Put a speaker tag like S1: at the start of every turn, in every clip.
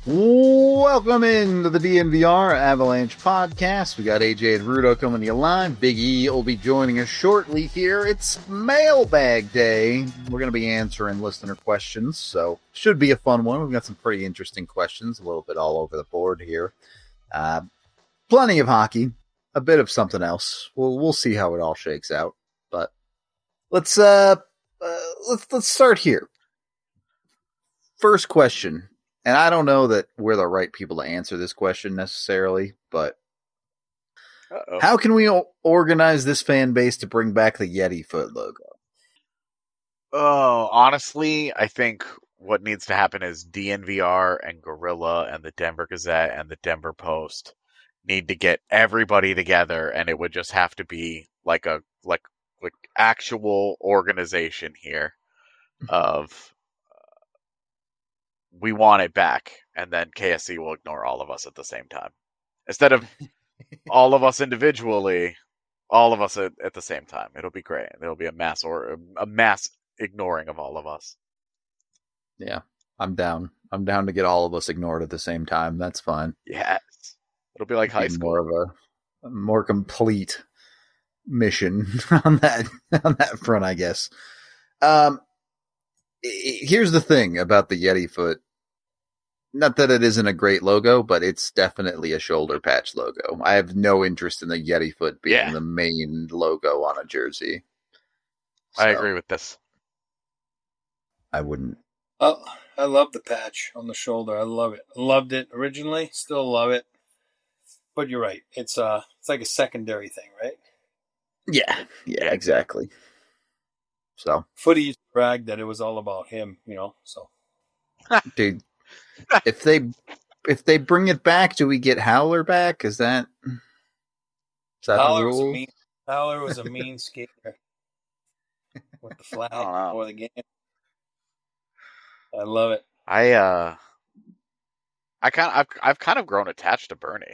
S1: Welcome into the DNVR Avalanche podcast. We got AJ and Rudo coming to you live. Big E will be joining us shortly here. It's mailbag day. We're going to be answering listener questions, so should be a fun one. We've got some pretty interesting questions, a little bit all over the board here. Plenty of hockey, a bit of something else. We'll see how it all shakes out. But let's start here. First question. And I don't know that we're the right people to answer this question necessarily, but how can we organize this fan base to bring back the Yeti foot logo?
S2: Oh, honestly, I think what needs to happen is DNVR and Gorilla and the Denver Gazette and the Denver Post need to get everybody together, and it would just have to be like actual organization here of we want it back, and then KSC will ignore all of us at the same time. Instead of all of us individually, all of us at the same time. It'll be great. It'll be a mass ignoring of all of us.
S1: Yeah, I'm down. I'm down to get all of us ignored at the same time. That's fine.
S2: Yes. It'll be like high school.
S1: More of a more complete mission on that front, I guess. Here's the thing about the Yeti foot. Not that it isn't a great logo, but it's definitely a shoulder patch logo. I have no interest in the Yeti foot being the main logo on a jersey.
S2: So, I agree with this.
S1: I wouldn't.
S3: Oh, I love the patch on the shoulder. I love it. I loved it originally. Still love it. But you're right. It's like a secondary thing, right?
S1: Yeah, exactly. So
S3: Footy used to brag that it was all about him, so.
S1: Dude, if they bring it back, do we get Howler back? Is that
S3: Howler
S1: the rule?
S3: Howler was a mean skater with the flag before the game. I love it.
S2: I've kind of grown attached to Bernie.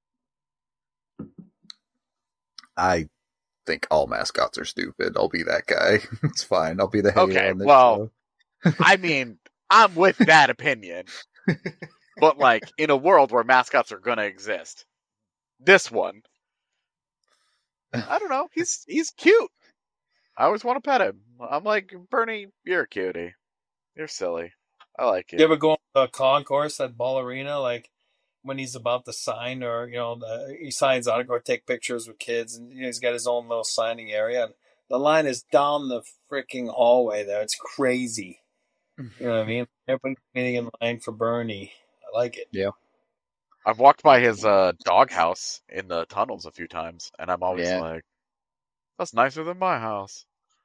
S1: I think all mascots are stupid. I'll be that guy. It's fine. I'll be the hater on this show.
S2: I mean, I'm with that opinion. But like in a world where mascots are gonna exist, this one, I don't know. He's cute. I always want to pet him. I'm like, Bernie, you're a cutie. You're silly. I like it.
S3: You ever go on the concourse at Ball Arena, like when he's about to sign, or he signs autograph, take pictures with kids, and he's got his own little signing area. And the line is down the freaking hallway there. It's crazy. You know what I mean? Everybody's waiting in line for Bernie. I like it.
S1: Yeah.
S2: I've walked by his doghouse in the tunnels a few times, and I'm always like, that's nicer than my house.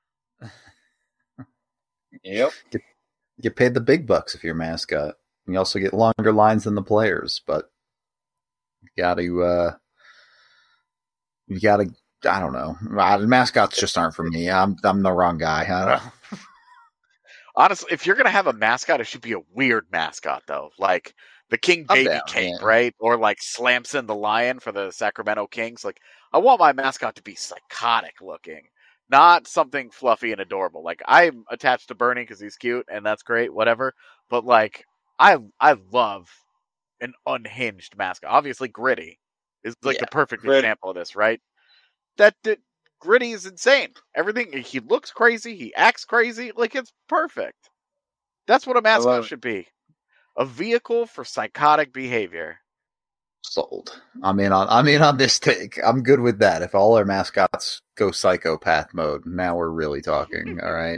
S3: Yep.
S1: Get paid the big bucks if you're a mascot. You also get longer lines than the players, but you gotta, I don't know. Mascots just aren't for me. I'm the wrong guy.
S2: Honestly, if you're going to have a mascot, it should be a weird mascot, though. Like the King Baby Cape, right? Or like Slamson the Lion for the Sacramento Kings. Like, I want my mascot to be psychotic looking, not something fluffy and adorable. Like, I'm attached to Bernie because he's cute, and that's great, whatever. But, like, I love an unhinged mascot. Obviously, Gritty is like the perfect example of this, right? That Gritty is insane. Everything, he looks crazy, he acts crazy, like it's perfect. That's what a mascot should be. A vehicle for psychotic behavior.
S1: Sold. I'm in on this take. I'm good with that. If all our mascots go psychopath mode, now we're really talking, all right?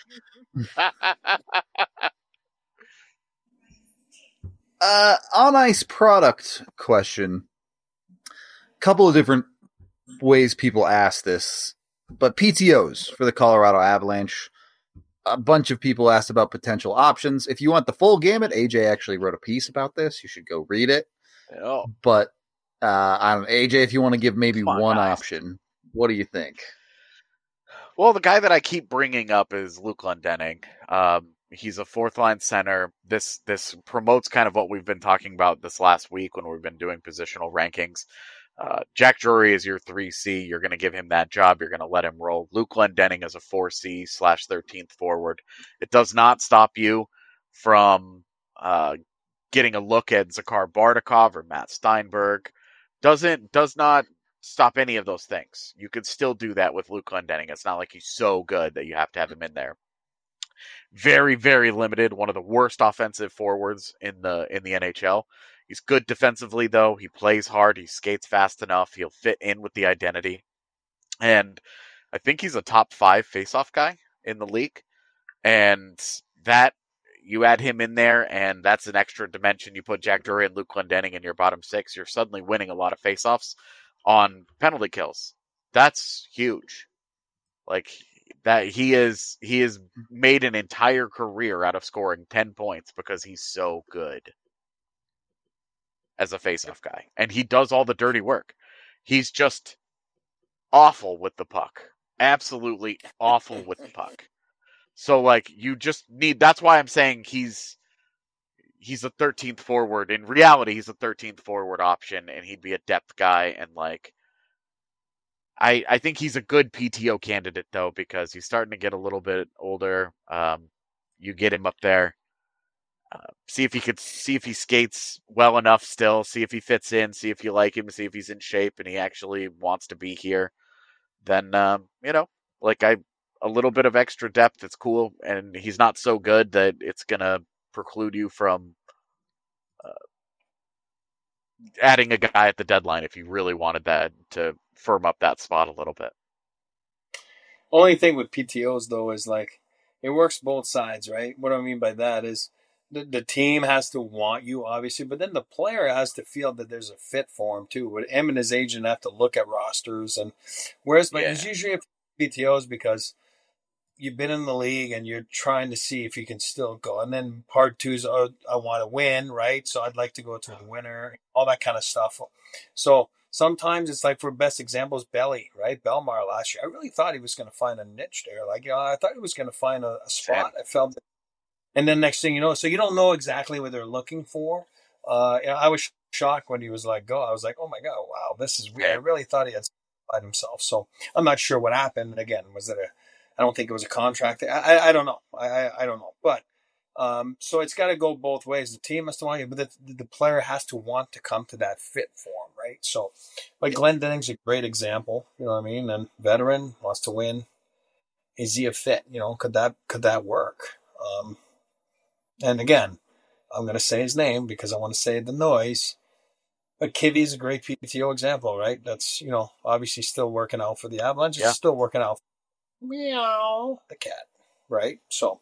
S1: On ice product question. Couple of different ways people ask this, but PTOs for the Colorado Avalanche. A bunch of people asked about potential options. If you want the full gamut, AJ actually wrote a piece about this. You should go read it.
S2: Oh.
S1: But I don't know, AJ, if you want to give maybe one option, what do you think?
S2: Well, the guy that I keep bringing up is Luke Glendening. He's a fourth line center. This promotes kind of what we've been talking about this last week when we've been doing positional rankings. Jack Drury is your 3C. You're going to give him that job. You're going to let him roll. Luke Glendening is a 4C/13th forward. It does not stop you from getting a look at Zakhar Bardakov or Matt Steinberg does not stop any of those things. You could still do that with Luke Glendening. It's not like he's so good that you have to have him in there. Very, very limited. One of the worst offensive forwards in the NHL. He's good defensively, though. He plays hard. He skates fast enough. He'll fit in with the identity. And I think he's a top 5 faceoff guy in the league. And that, you add him in there, and that's an extra dimension. You put Jack Drury and Luke Glendening in your bottom 6, you're suddenly winning a lot of faceoffs on penalty kills. That's huge. Like, that he is made an entire career out of scoring 10 points because he's so good as a faceoff guy. And he does all the dirty work. He's just awful with the puck. Absolutely awful with the puck. So, like, you just need... That's why I'm saying he's a 13th forward. In reality, he's a 13th forward option, and he'd be a depth guy. And, like, I think he's a good PTO candidate, though, because he's starting to get a little bit older. You get him up there. See if he skates well enough still. See if he fits in. See if you like him. See if he's in shape and he actually wants to be here. Then, a little bit of extra depth, it's cool. And he's not so good that it's going to preclude you from adding a guy at the deadline if you really wanted that to firm up that spot a little bit.
S3: Only thing with PTOs, though, is like it works both sides, right? What I mean by that is the team has to want you, obviously, but then the player has to feel that there's a fit for him too. But him and his agent have to look at rosters, and whereas, but it's usually PTOs because you've been in the league and you're trying to see if you can still go. And then part 2 is, I want to win, right? So I'd like to go to a winner, all that kind of stuff. So sometimes it's like, for best examples, Belly, right? Belmar last year. I really thought he was going to find a niche there. Like, I thought he was going to find a spot. I felt it. And then next thing you know, so you don't know exactly what they're looking for. I was shocked when he was like, go. I was like, oh my God, wow, this is weird. I really thought he had satisfied himself. So I'm not sure what happened. Again, was it I don't think it was a contract. I don't know. I don't know. But so it's got to go both ways. The team has to want you, but the player has to want to come to that fit form, right? So, like Glendening's a great example. You know what I mean? And veteran wants to win. Is he a fit? You know, could that work? And again, I'm going to say his name because I want to say the noise. But Kivi's a great PTO example, right? That's, obviously still working out for the Avalanche. Yeah. Still working out. Meow. The cat, right? So.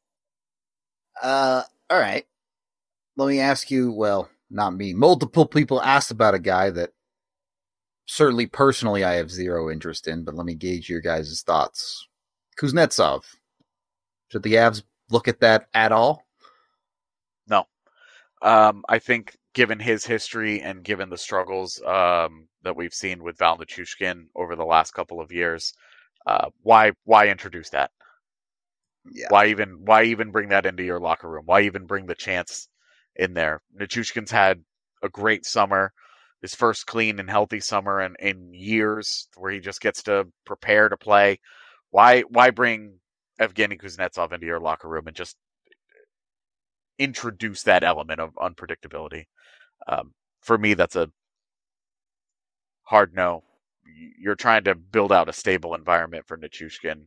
S1: All right. Let me ask you, well, not me. Multiple people asked about a guy that certainly personally I have zero interest in, but let me gauge your guys' thoughts. Kuznetsov. Should the Avs look at that at all?
S2: No. I think given his history and given the struggles that we've seen with Val Nichushkin over the last couple of years, why introduce that? Yeah. Why even bring that into your locker room? Why even bring the chance in there? Nichushkin's had a great summer, his first clean and healthy summer in years, where he just gets to prepare to play. Why bring Evgeny Kuznetsov into your locker room and just introduce that element of unpredictability? For me, that's a hard no. You're trying to build out a stable environment for Nichushkin.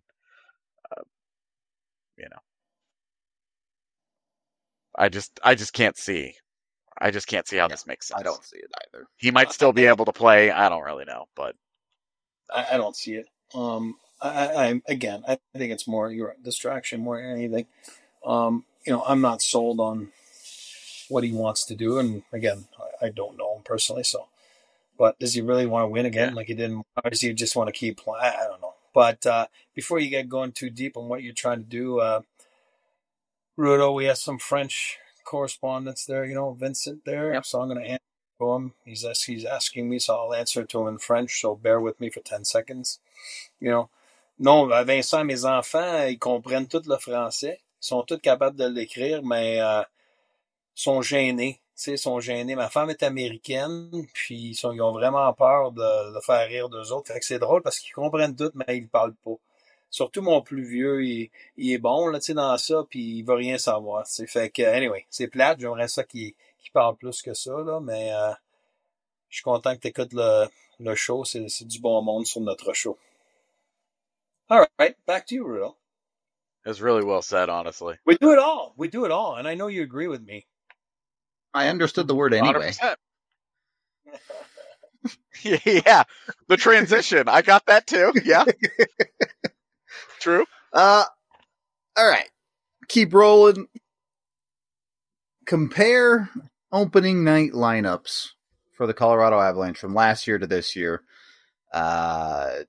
S2: I just can't see. I just can't see how this makes sense.
S1: I don't see it either.
S2: He might still be able to play. I don't really know, but
S3: I don't see it. I think it's more your distraction more than anything. I'm not sold on what he wants to do, and again, I don't know him personally. So, but does he really want to win again, like he didn't, or does he just want to keep playing? I don't know. But before you get going too deep on what you're trying to do, Rudo, we have some French correspondence there. Vincent there. Yep. So I'm going to answer to him. He's asking me, so I'll answer to him in French. So bear with me for 10 seconds. Non, Vincent, mes enfants, ils comprennent tout le français. Ils sont tous capables de l'écrire, mais sont gênés. Sont gênés. Ma femme est américaine, puis ils ont vraiment peur de faire rire d'eux autres. Fait que c'est drôle parce qu'ils comprennent tout, mais ils parlent pas. Surtout mon plus vieux, il est bon là, dans ça, puis il veut rien savoir. Fait que, anyway, c'est plate. J'aimerais ça qu'il qui parle plus que ça, là, mais je suis content que tu écoutes le show. C'est du bon monde sur notre show. All right, back to you, Rudo.
S2: It's really well said, honestly.
S3: We do it all. We do it all, and I know you agree with me.
S1: I understood the word anyway.
S2: 100%. Yeah, the transition. I got that too. Yeah. True.
S1: All right. Keep rolling. Compare opening night lineups for the Colorado Avalanche from last year to this year. And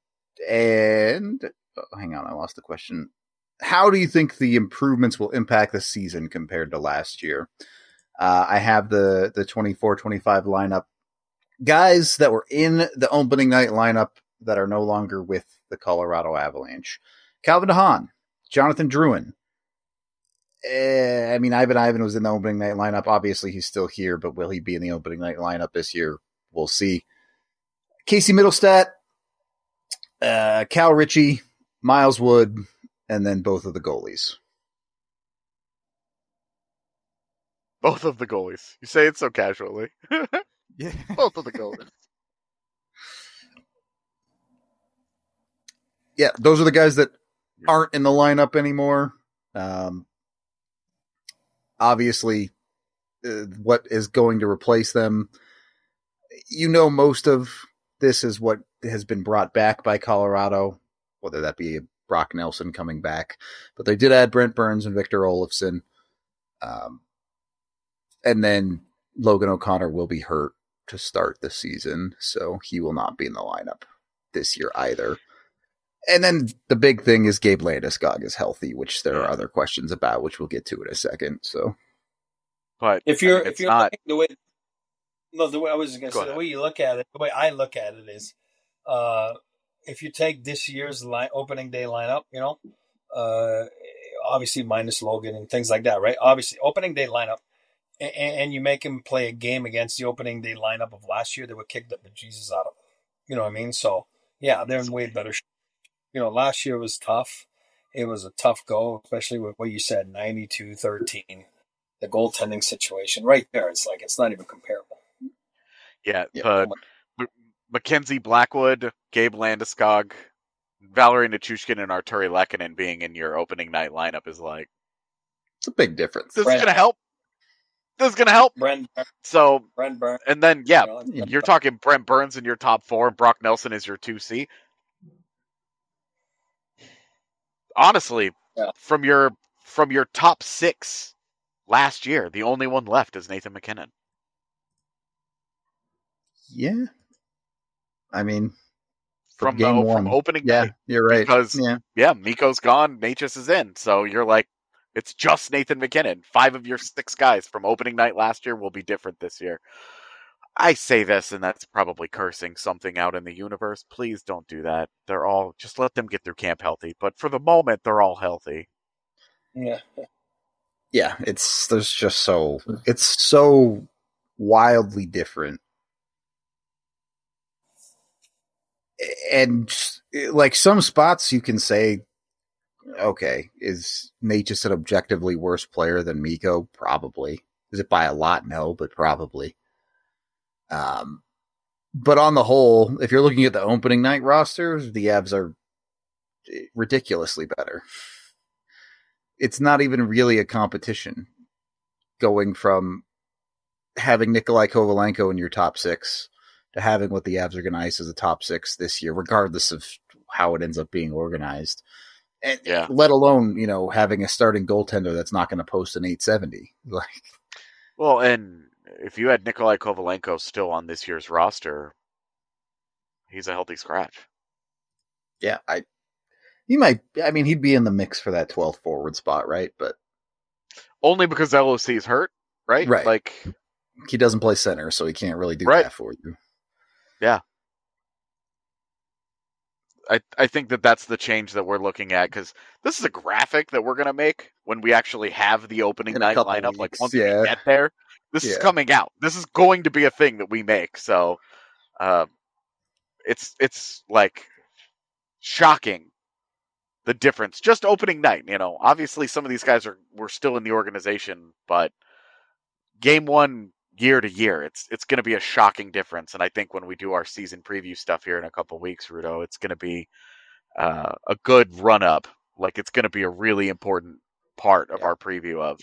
S1: hang on, I lost the question. How do you think the improvements will impact the season compared to last year? I have the 24-25 lineup. Guys that were in the opening night lineup that are no longer with the Colorado Avalanche. Calvin DeHaan, Jonathan Drouin. Ivan was in the opening night lineup. Obviously, he's still here, but will he be in the opening night lineup this year? We'll see. Casey Middlestat, Cal Ritchie, Miles Wood, and then both of the goalies.
S2: Both of the goalies. You say it so casually.
S1: Yeah.
S2: Both of the goalies.
S1: Yeah, those are the guys that aren't in the lineup anymore. Obviously, what is going to replace them? Most of this is what has been brought back by Colorado, whether that be Brock Nelson coming back. But they did add Brent Burns and Victor Olofsson. And then Logan O'Connor will be hurt to start the season, so he will not be in the lineup this year either. And then the big thing is Gabe Landeskog is healthy, which there are other questions about, which we'll get to in a second. So,
S2: but
S3: if you're
S2: not
S3: the way I was going to say, the way you look at it, the way I look at it is, if you take this year's opening day lineup, obviously minus Logan and things like that, right? Obviously, opening day lineup, and you make him play a game against the opening day lineup of last year, they would kick the bejesus out of him. You know what I mean? So, yeah, they're in way better shape. Last year was tough. It was a tough go, especially with what you said, 92-13. The goaltending situation right there, it's not even comparable.
S2: Yeah, but Mackenzie Blackwood, Gabe Landeskog, Valerie Nichushkin, and Arturi Lehkonen being in your opening night lineup is
S1: it's a big difference.
S2: This is going to help.
S3: Brent
S2: Burns. And then, you're talking Brent Burns in your top 4, and Brock Nelson is your 2C. Honestly, from your top 6 last year, the only one left is Nathan MacKinnon.
S1: Yeah.
S2: From opening night.
S1: You're right.
S2: Because, Mikko's gone, Necas is in. So you're it's just Nathan MacKinnon. 5 of your 6 guys from opening night last year will be different this year. I say this, and that's probably cursing something out in the universe. Please don't do that. Just let them get through camp healthy. But for the moment, they're all healthy.
S3: Yeah.
S1: Yeah, it's so wildly different. And some spots you can say, okay, is Nate just an objectively worse player than Mikko? Probably. Is it by a lot? No, but probably. But on the whole, if you're looking at the opening night rosters, the Avs are ridiculously better. It's not even really a competition going from having Nikolai Kovalenko in your top 6 to having what the Avs are going to ice as a top 6 this year, regardless of how it ends up being organized. And let alone, having a starting goaltender that's not going to post an 870.
S2: Well, and if you had Nikolai Kovalenko still on this year's roster, he's a healthy scratch.
S1: Yeah, he'd be in the mix for that 12th forward spot, right? But
S2: only because LOC is hurt, right?
S1: Right. He doesn't play center, so he can't really do that for you.
S2: Yeah. I think that's the change that we're looking at, because this is a graphic that we're going to make when we actually have the opening night lineup.
S1: Weeks,
S2: once we get there, this is coming out. This is going to be a thing that we make. So it's shocking, the difference. Just opening night, obviously some of these guys were still in the organization, but game 1 year to year. It's going to be a shocking difference. And I think when we do our season preview stuff here in a couple of weeks, Rudo, it's going to be a good run up. Like, it's going to be a really important part of our preview of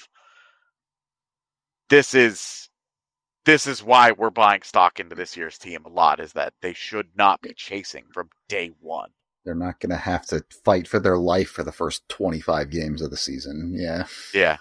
S2: this is why we're buying stock into this year's team a lot, is that they should not be chasing from day one.
S1: They're not going to have to fight for their life for the first 25 games of the season. Yeah.
S2: Yeah.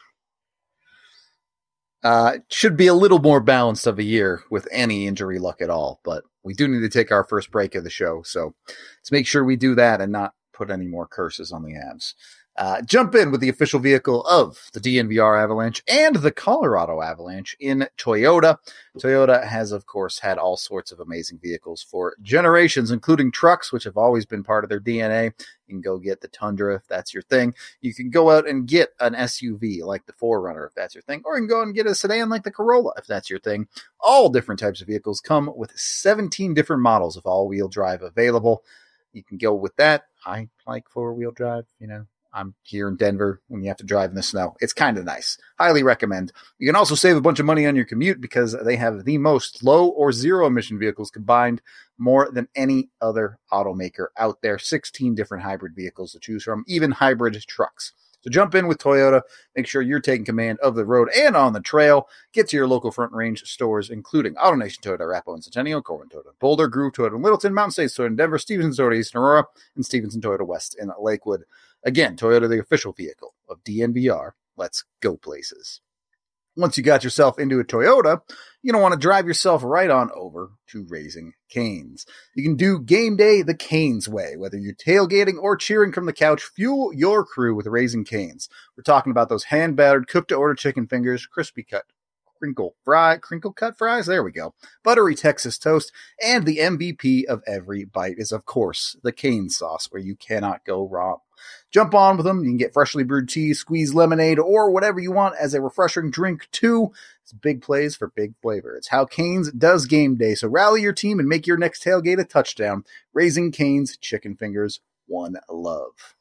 S1: It should be a little more balanced of a year with any injury luck at all, but we do need to take our first break of the show. So let's make sure we do that and not put any more curses on the Avs. Jump in with the official vehicle of the DNVR Avalanche and the Colorado Avalanche in Toyota. Toyota has, of course, had all sorts of amazing vehicles for generations, including trucks, which have always been part of their DNA. You can go get the Tundra if that's your thing. You can go out and get an SUV like the 4Runner if that's your thing, or you can go and get a sedan like the Corolla if that's your thing. All different types of vehicles come with 17 different models of all-wheel drive available. You can go with that. I like four-wheel drive, I'm here in Denver when you have to drive in the snow. It's kind of nice. Highly recommend. You can also save a bunch of money on your commute because they have the most low or zero emission vehicles combined, more than any other automaker out there. 16 different hybrid vehicles to choose from, even hybrid trucks. So jump in with Toyota. Make sure you're taking command of the road and on the trail. Get to your local Front Range stores, including AutoNation Toyota, Arapahoe and Centennial, Corbin Toyota, Boulder, Groove Toyota in Littleton, Mountain States Toyota in Denver, Stevenson Toyota East in Aurora, and Stevenson Toyota West in Lakewood. Again, Toyota, the official vehicle of DNVR. Let's go places. Once you got yourself into a Toyota, you don't want to drive yourself right on over to Raising Cane's. You can do game day the Cane's way. Whether you're tailgating or cheering from the couch, fuel your crew with Raising Cane's. We're talking about those hand-battered, cooked-to-order chicken fingers, crispy cut, crinkle cut fries, there we go, buttery Texas toast, and the MVP of every bite is, of course, the Cane's sauce, where you cannot go wrong. Jump on with them. You can get freshly brewed tea, squeezed lemonade, or whatever you want as a refreshing drink, too. It's big plays for big flavor. It's how Cane's does game day. So rally your team and make your next tailgate a touchdown. Raising Cane's chicken fingers, one love.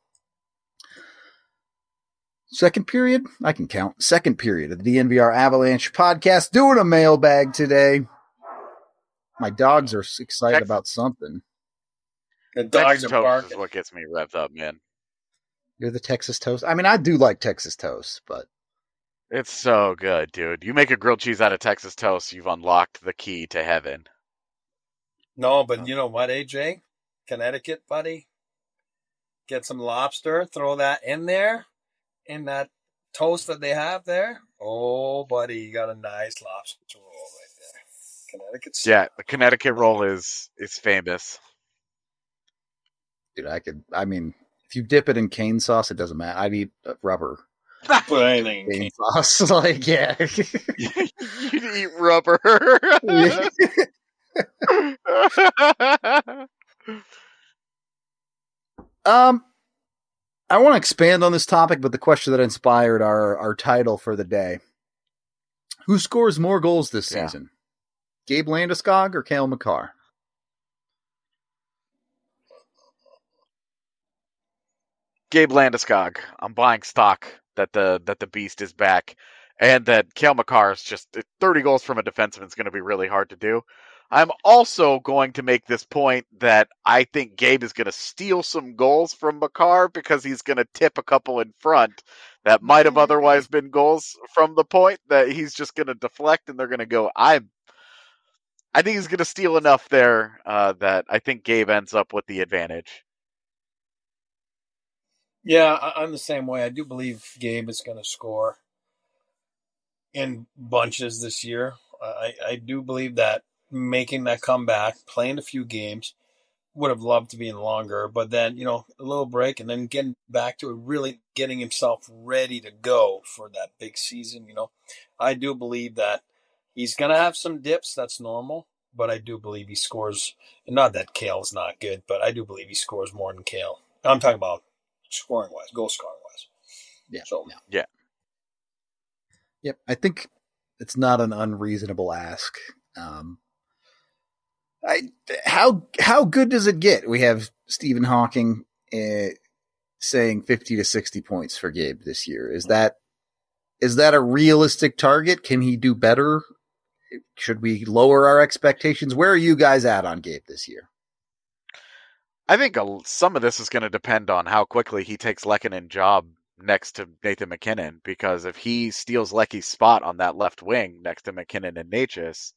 S1: Second period? I can count. Second period of the DNVR Avalanche podcast. Doing a mailbag today. My dogs are excited about something.
S3: The dogs are barking.
S2: Is what gets me revved up, man.
S1: You're the Texas toast? I mean, I do like Texas toast, but...
S2: It's so good, dude. You make a grilled cheese out of Texas toast, you've unlocked the key to heaven.
S3: No, but you know what, AJ? Connecticut, buddy? Get some lobster, throw that in there, in that toast that they have there. Oh, buddy, you got a nice lobster roll right there. Connecticut style.
S2: Yeah, the Connecticut roll is famous.
S1: Dude, if you dip it in cane sauce, it doesn't matter. I'd eat rubber.
S3: Put anything in
S1: cane sauce. Like, yeah.
S2: You'd eat rubber.
S1: I want to expand on this topic, but the question that inspired our title for the day. Who scores more goals this season? Gabe Landeskog or Cale Makar?
S2: Gabe Landeskog. I'm buying stock that the beast is back, and that Cale Makar is just 30 goals from a defenseman is going to be really hard to do. I'm also going to make this point that I think Gabe is going to steal some goals from Makar because he's going to tip a couple in front that might have otherwise been goals from the point that he's just going to deflect and they're going to go. I think he's going to steal enough there that I think Gabe ends up with the advantage.
S3: Yeah, I'm the same way. I do believe Gabe is going to score in bunches this year. I do believe that making that comeback, playing a few games, would have loved to be in longer, but then, a little break and then getting back to it, really getting himself ready to go for that big season. I do believe that he's going to have some dips. That's normal, but I do believe he scores. And not that Cale's not good, but I do believe he scores more than Cale. I'm talking about scoring wise, goal scoring wise.
S1: Yeah.
S3: So,
S2: yeah.
S1: Yep. I think it's not an unreasonable ask. How good does it get? We have Stephen Hawking saying 50 to 60 points for Gabe this year. Is that a realistic target? Can he do better? should we lower our expectations? Where are you guys at on Gabe this year?
S2: I think some of this is going to depend on how quickly he takes Lehkonen's job next to Nathan MacKinnon, because if he steals Lecky's spot on that left wing next to MacKinnon and Necas,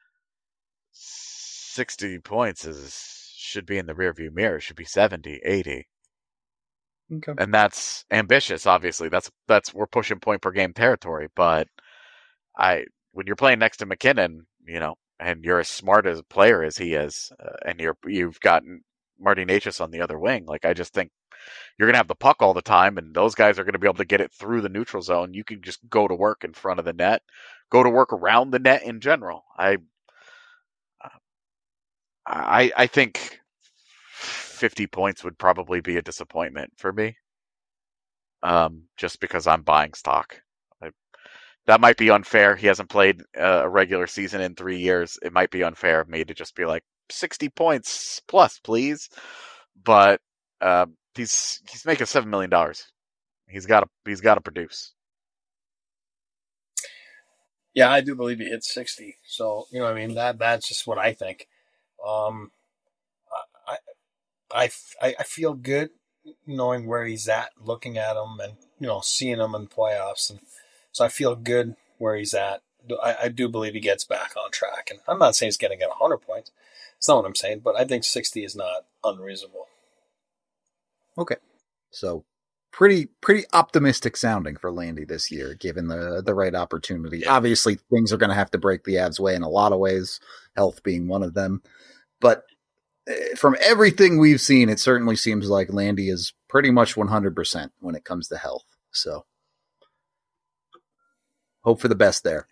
S2: 60 points should be in the rearview mirror. It should be 70, 80.
S1: Okay.
S2: And that's ambitious, obviously. That's we're pushing point per game territory, but when you're playing next to MacKinnon, and you're as smart as a player as he is, and you've got Marty Necas on the other wing, like, I just think you're going to have the puck all the time, and those guys are going to be able to get it through the neutral zone. You can just go to work in front of the net, go to work around the net in general. I think 50 points would probably be a disappointment for me, just because I'm buying stock. That might be unfair. He hasn't played a regular season in 3 years. It might be unfair of me to just be like, 60 points plus, please. But he's making $7 million. He's got to produce.
S3: Yeah, I do believe he hit 60. So, that's just what I think. I feel good knowing where he's at, looking at him, and seeing him in playoffs, and so I feel good where he's at. I do believe he gets back on track, and I'm not saying he's going to get 100 points. It's not what I'm saying, but I think 60 is not unreasonable.
S1: Okay, so pretty optimistic sounding for Landy this year, given the right opportunity. Yeah. Obviously, things are going to have to break the Avs' way in a lot of ways, health being one of them. But from everything we've seen, it certainly seems like Landy is pretty much 100% when it comes to health. So hope for the best there.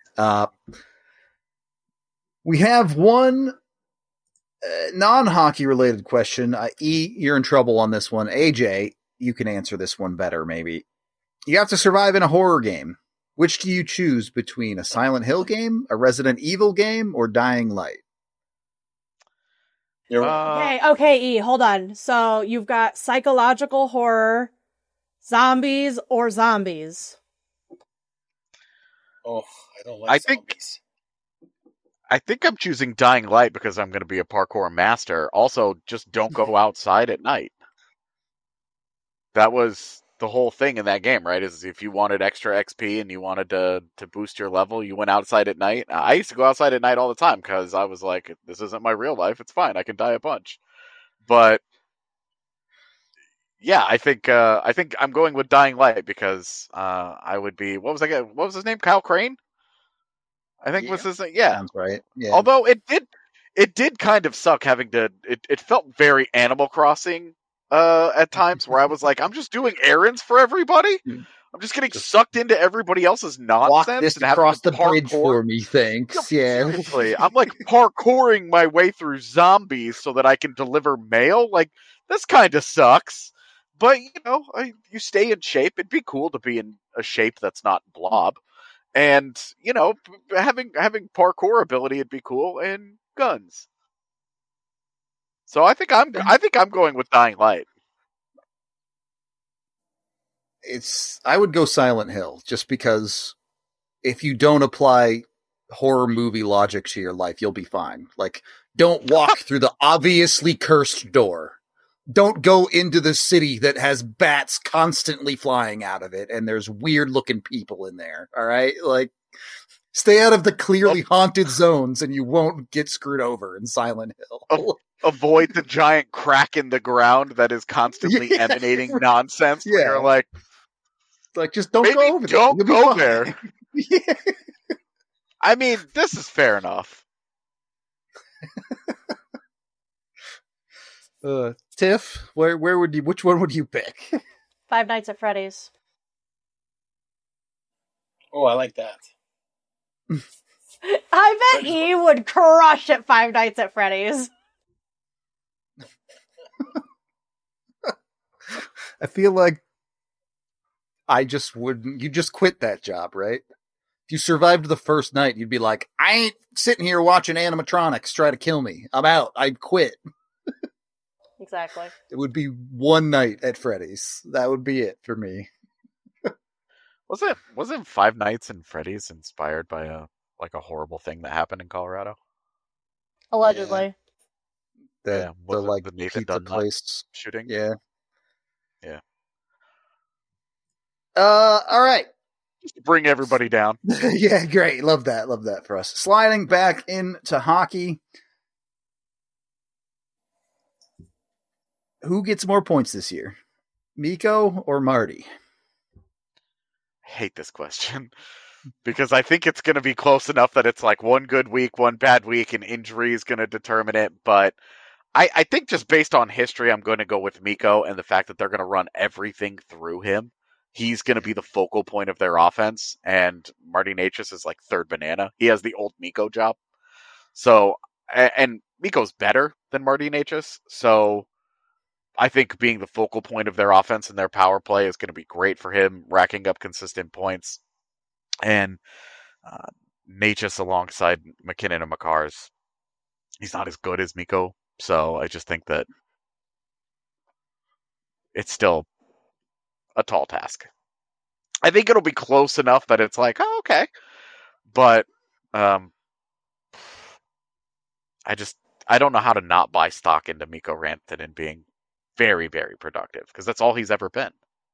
S1: We have one non-hockey related question. You're in trouble on this one. AJ, you can answer this one better, maybe. You have to survive in a horror game. Which do you choose between a Silent Hill game, a Resident Evil game, or Dying Light?
S4: Okay, E, hold on. So you've got psychological horror, zombies, or zombies.
S3: Oh, I don't like zombies.
S2: I think I'm choosing Dying Light because I'm going to be a parkour master. Also, just don't go outside at night. That was the whole thing in that game, right? Is if you wanted extra XP and you wanted to boost your level, you went outside at night. I used to go outside at night all the time because I was like, this isn't my real life. It's fine. I can die a bunch. But yeah, I think I'm going with Dying Light because I would be. What was his name? Kyle Crane. I think was his name. Yeah,
S1: sounds right. Yeah.
S2: Although it did kind of suck having to. It felt very Animal Crossing at times where I was like, I'm just doing errands for everybody. I'm just getting sucked into everybody else's nonsense.
S1: Walk this
S2: and
S1: across the bridge for me, thanks. Yeah.
S2: Seriously, I'm like parkouring my way through zombies so that I can deliver mail. Like, this kind of sucks. But you stay in shape. It'd be cool to be in a shape that's not blob. And, having parkour ability would be cool, and guns. So I think I'm going with Dying Light.
S1: I would go Silent Hill just because if you don't apply horror movie logic to your life, you'll be fine. Like, don't walk through the obviously cursed door. Don't go into the city that has bats constantly flying out of it and there's weird looking people in there. All right. Like, stay out of the clearly haunted zones and you won't get screwed over in Silent Hill.
S2: Avoid the giant crack in the ground that is constantly emanating nonsense.
S1: Yeah.
S2: You're like,
S1: just don't go over there.
S2: Don't go there. Yeah. I mean, this is fair enough.
S1: Tiff, which one would you pick?
S4: Five Nights at Freddy's.
S3: Oh, I like that.
S4: I bet E would crush at Five Nights at Freddy's.
S1: I feel like I just wouldn't. You just quit that job, right? If you survived the first night, you'd be like, I ain't sitting here watching animatronics try to kill me. I'm out. I'd quit.
S4: Exactly.
S1: It would be one night at Freddy's. That would be it for me.
S2: Wasn't Five Nights at Freddy's inspired by a like a horrible thing that happened in Colorado?
S4: Allegedly.
S1: The like
S2: the Nathan
S1: pizza
S2: Dunn
S1: place
S2: shooting.
S1: Yeah. All right.
S2: Just to bring everybody down.
S1: Yeah, great. Love that for us. Sliding back into hockey. Who gets more points this year? Mikko or Marty?
S2: I hate this question because I think it's going to be close enough that it's like one good week, one bad week, and injury is going to determine it. But I think just based on history, I'm going to go with Mikko and the fact that they're going to run everything through him. He's going to be the focal point of their offense, and Marty Necas is like third banana. He has the old Mikko job. So, and Mikko's better than Marty Necas, so I think being the focal point of their offense and their power play is going to be great for him, racking up consistent points. And Necas alongside McKinnon and Makars, he's not as good as Mikko, so I just think that it's still a tall task. I think it'll be close enough that it's like, oh, okay. But I don't know how to not buy stock into Mikko Rantanen being very, very productive, because that's all he's ever been.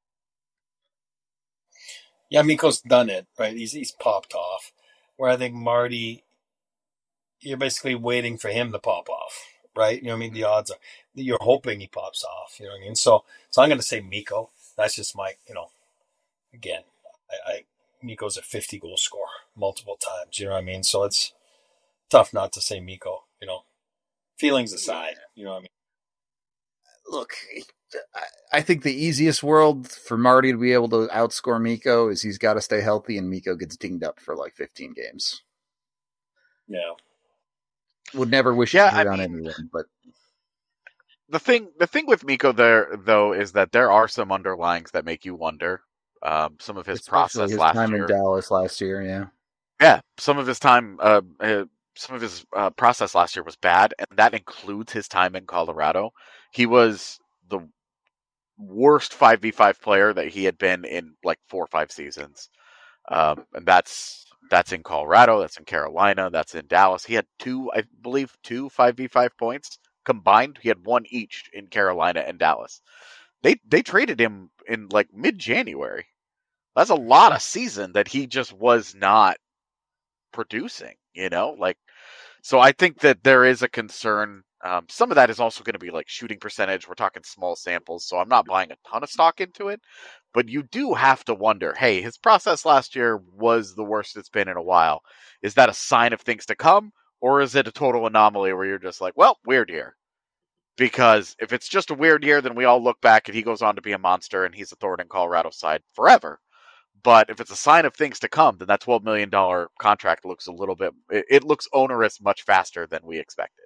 S3: Yeah, Mikko's done it, right? He's popped off. Where I think Marty, you're basically waiting for him to pop off, right? You know what I mean? The odds are you're hoping he pops off. You know what I mean? So I'm going to say Mikko. That's just my, again, Mikko's a 50 goal scorer multiple times. You know what I mean? So it's tough not to say Mikko. Feelings aside. You know what I mean?
S1: Look, I think the easiest world for Marty to be able to outscore Mikko is he's got to stay healthy, and Mikko gets dinged up for like 15 games.
S3: Yeah.
S1: Would never wish it on anyone, but
S2: the thing with Mikko there though is that there are some underlyings that make you wonder. Some of his process last
S1: time
S2: year
S1: in Dallas last year,
S2: some of his time, some of his process last year was bad, and that includes his time in Colorado. He was the worst 5v5 player that he had been in like 4 or 5 seasons, and that's in Colorado, that's in Carolina, that's in Dallas. He had 2 5v5 points combined. He had 1 each in Carolina and Dallas. They traded him in like mid-January. That's a lot of season that he just was not producing, so I think that there is a concern. Some of that is also going to be like shooting percentage. We're talking small samples, so I'm not buying a ton of stock into it, but you do have to wonder, hey, his process last year was the worst it's been in a while. Is that a sign of things to come, or is it a total anomaly where you're just like, well, weird year? Because if it's just a weird year, then we all look back and he goes on to be a monster and he's a thorn in Colorado's side forever. But if it's a sign of things to come, then that $12 million contract looks it looks onerous much faster than we expected.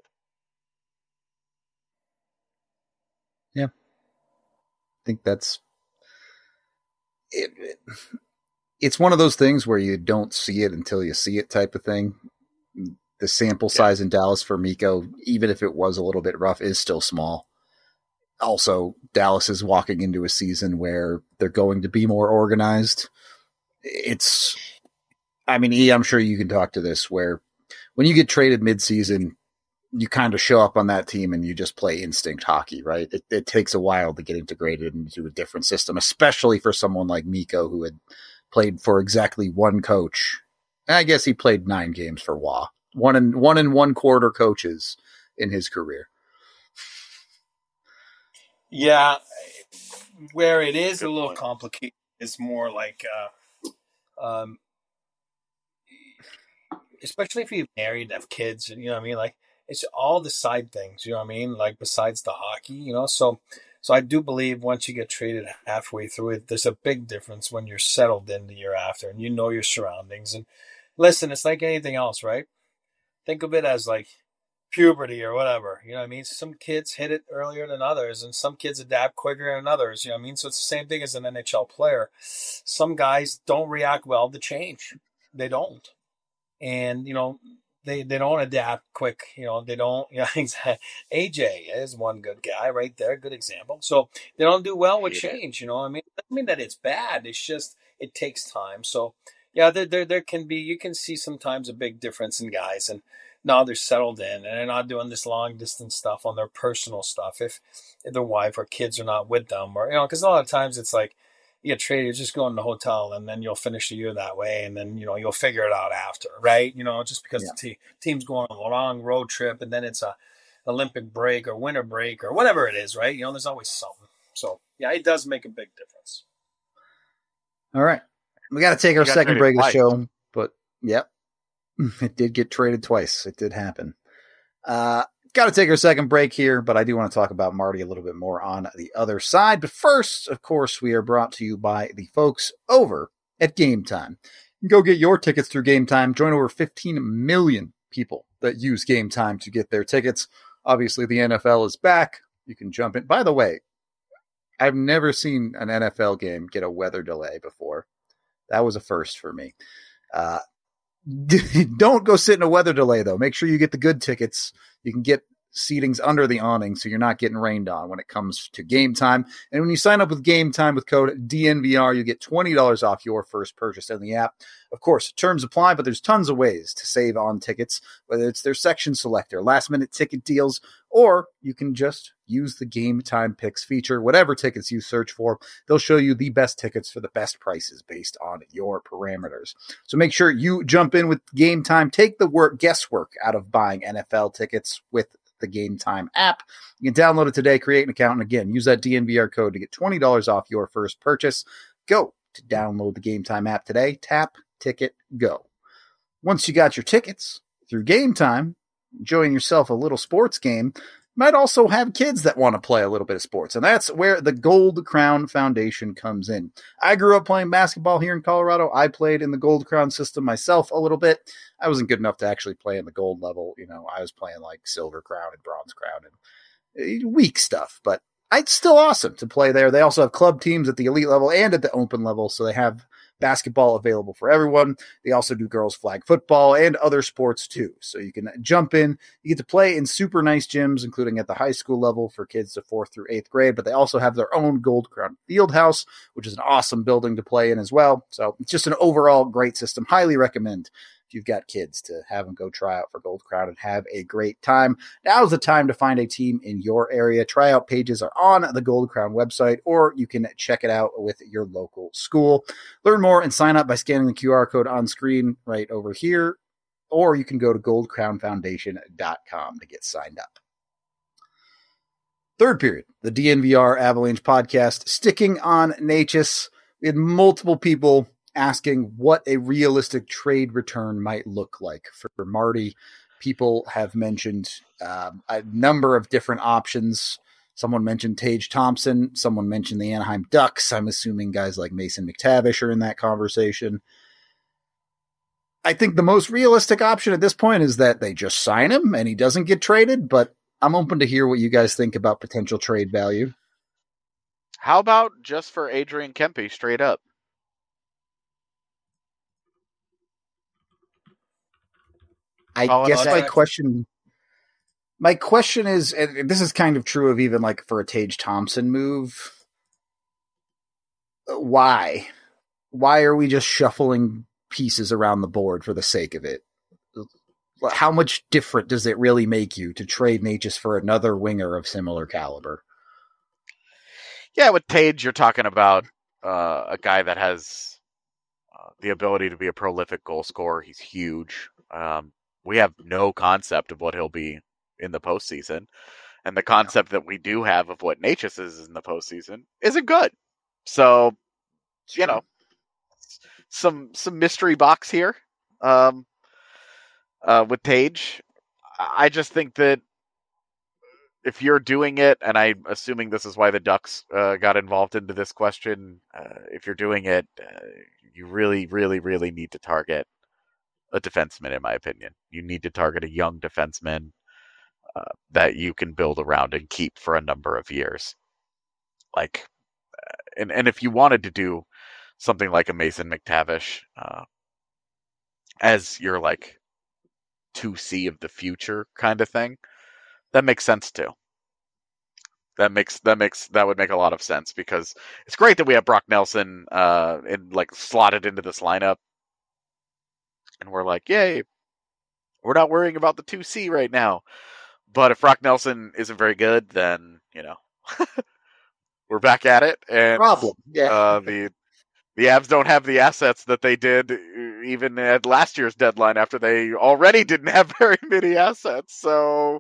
S1: Yeah. I think that's it. It's one of those things where you don't see it until you see it type of thing. The sample size in Dallas for Mikko, even if it was a little bit rough, is still small. Also, Dallas is walking into a season where they're going to be more organized. I'm sure you can talk to this, where when you get traded mid-season, you kind of show up on that team and you just play instinct hockey, right? It takes a while to get integrated into a different system, especially for someone like Mikko, who had played for exactly one coach. I guess he played 9 games for Wah. 1 1/4 coaches in his career.
S3: Yeah, where it is a little complicated is more like, especially if you're married and have kids, and you know what I mean. Like it's all the side things, you know what I mean. Like besides the hockey, So I do believe once you get traded halfway through it, there's a big difference when you're settled in the year after and you know your surroundings. And listen, it's like anything else, right? Think of it as like puberty or whatever, you know what I mean? Some kids hit it earlier than others, and some kids adapt quicker than others, you know what I mean? So it's the same thing as an NHL player. Some guys don't react well to change. They don't. And, they don't adapt quick, they don't, AJ is one good guy right there, good example. So they don't do well with change, I mean? It doesn't mean that it's bad. It's just, it takes time. So, Yeah, there can be, you can see sometimes a big difference in guys, and now they're settled in and they're not doing this long distance stuff on their personal stuff. If their wife or kids are not with them, or, because a lot of times it's like you get traded, you just go in the hotel and then you'll finish the year that way. And then, you'll figure it out after, right? Just because the team's going on a long road trip and then it's a Olympic break or winter break or whatever it is, right? There's always something. So yeah, it does make a big difference.
S1: All right. We got to take our second break of the show, but yep, it did get traded twice. It did happen. Got to take our second break here, but I do want to talk about Marty a little bit more on the other side. But first, of course, we are brought to you by the folks over at Game Time. You can go get your tickets through Game Time. Join over 15 million people that use Game Time to get their tickets. Obviously, the NFL is back. You can jump in. By the way, I've never seen an NFL game get a weather delay before. That was a first for me. Don't go sit in a weather delay, though. Make sure you get the good tickets. You can get seatings under the awning so you're not getting rained on when it comes to Game Time. And when you sign up with Game Time with code DNVR, you get $20 off your first purchase in the app. Of course, terms apply, but there's tons of ways to save on tickets, whether it's their section selector, last-minute ticket deals, or you can just use the Game Time Picks feature. Whatever tickets you search for, they'll show you the best tickets for the best prices based on your parameters. So make sure you jump in with Game Time. Take the guesswork out of buying NFL tickets with the Game Time app. You can download it today, create an account, and again, use that DNVR code to get $20 off your first purchase. Go to download the Game Time app today. Tap, ticket, go. Once you got your tickets through Game Time, enjoying yourself a little sports game, might also have kids that want to play a little bit of sports. And that's where the Gold Crown Foundation comes in. I grew up playing basketball here in Colorado. I played in the Gold Crown system myself a little bit. I wasn't good enough to actually play in the gold level. I was playing like Silver Crown and Bronze Crown and weak stuff, but it's still awesome to play there. They also have club teams at the elite level and at the open level. So they have basketball available for everyone. They also do girls flag football and other sports too. So you can jump in. You get to play in super nice gyms, including at the high school level for kids to 4th through 8th grade, but they also have their own Gold Crown Fieldhouse, which is an awesome building to play in as well. So it's just an overall great system. Highly recommend if you've got kids to have them go try out for Gold Crown and have a great time. Now's the time to find a team in your area. Tryout pages are on the Gold Crown website, or you can check it out with your local school. Learn more and sign up by scanning the QR code on screen right over here, or you can go to goldcrownfoundation.com to get signed up. Third period, the DNVR Avalanche podcast, sticking on Necas. We had multiple people asking what a realistic trade return might look like for Marty. People have mentioned a number of different options. Someone mentioned Tage Thompson. Someone mentioned the Anaheim Ducks. I'm assuming guys like Mason McTavish are in that conversation. I think the most realistic option at this point is that they just sign him and he doesn't get traded, but I'm open to hear what you guys think about potential trade value.
S2: How about just for Adrian Kempe straight up?
S1: I guess my question is, and this is kind of true of even like for a Tage Thompson move. Why are we just shuffling pieces around the board for the sake of it? How much different does it really make you to trade Necas for another winger of similar caliber?
S2: Yeah, with Tage, you're talking about a guy that has the ability to be a prolific goal scorer. He's huge. We have no concept of what he'll be in the postseason. And the concept that we do have of what Necas is in the postseason isn't good. So, some mystery box here with Tage. I just think that if you're doing it, and I'm assuming this is why the Ducks got involved into this question, if you're doing it, you really, really, really need to target a defenseman, in my opinion. You need to target a young defenseman that you can build around and keep for a number of years. And if you wanted to do something like a Mason McTavish as your 2C of the future kind of thing, that makes sense too. That would make a lot of sense, because it's great that we have Brock Nelson slotted into this lineup. and we're like, yay, we're not worrying about the 2C right now. But if Brock Nelson isn't very good, then, we're back at it. And
S1: problem. Yeah.
S2: The Avs don't have the assets that they did even at last year's deadline after they already didn't have very many assets. So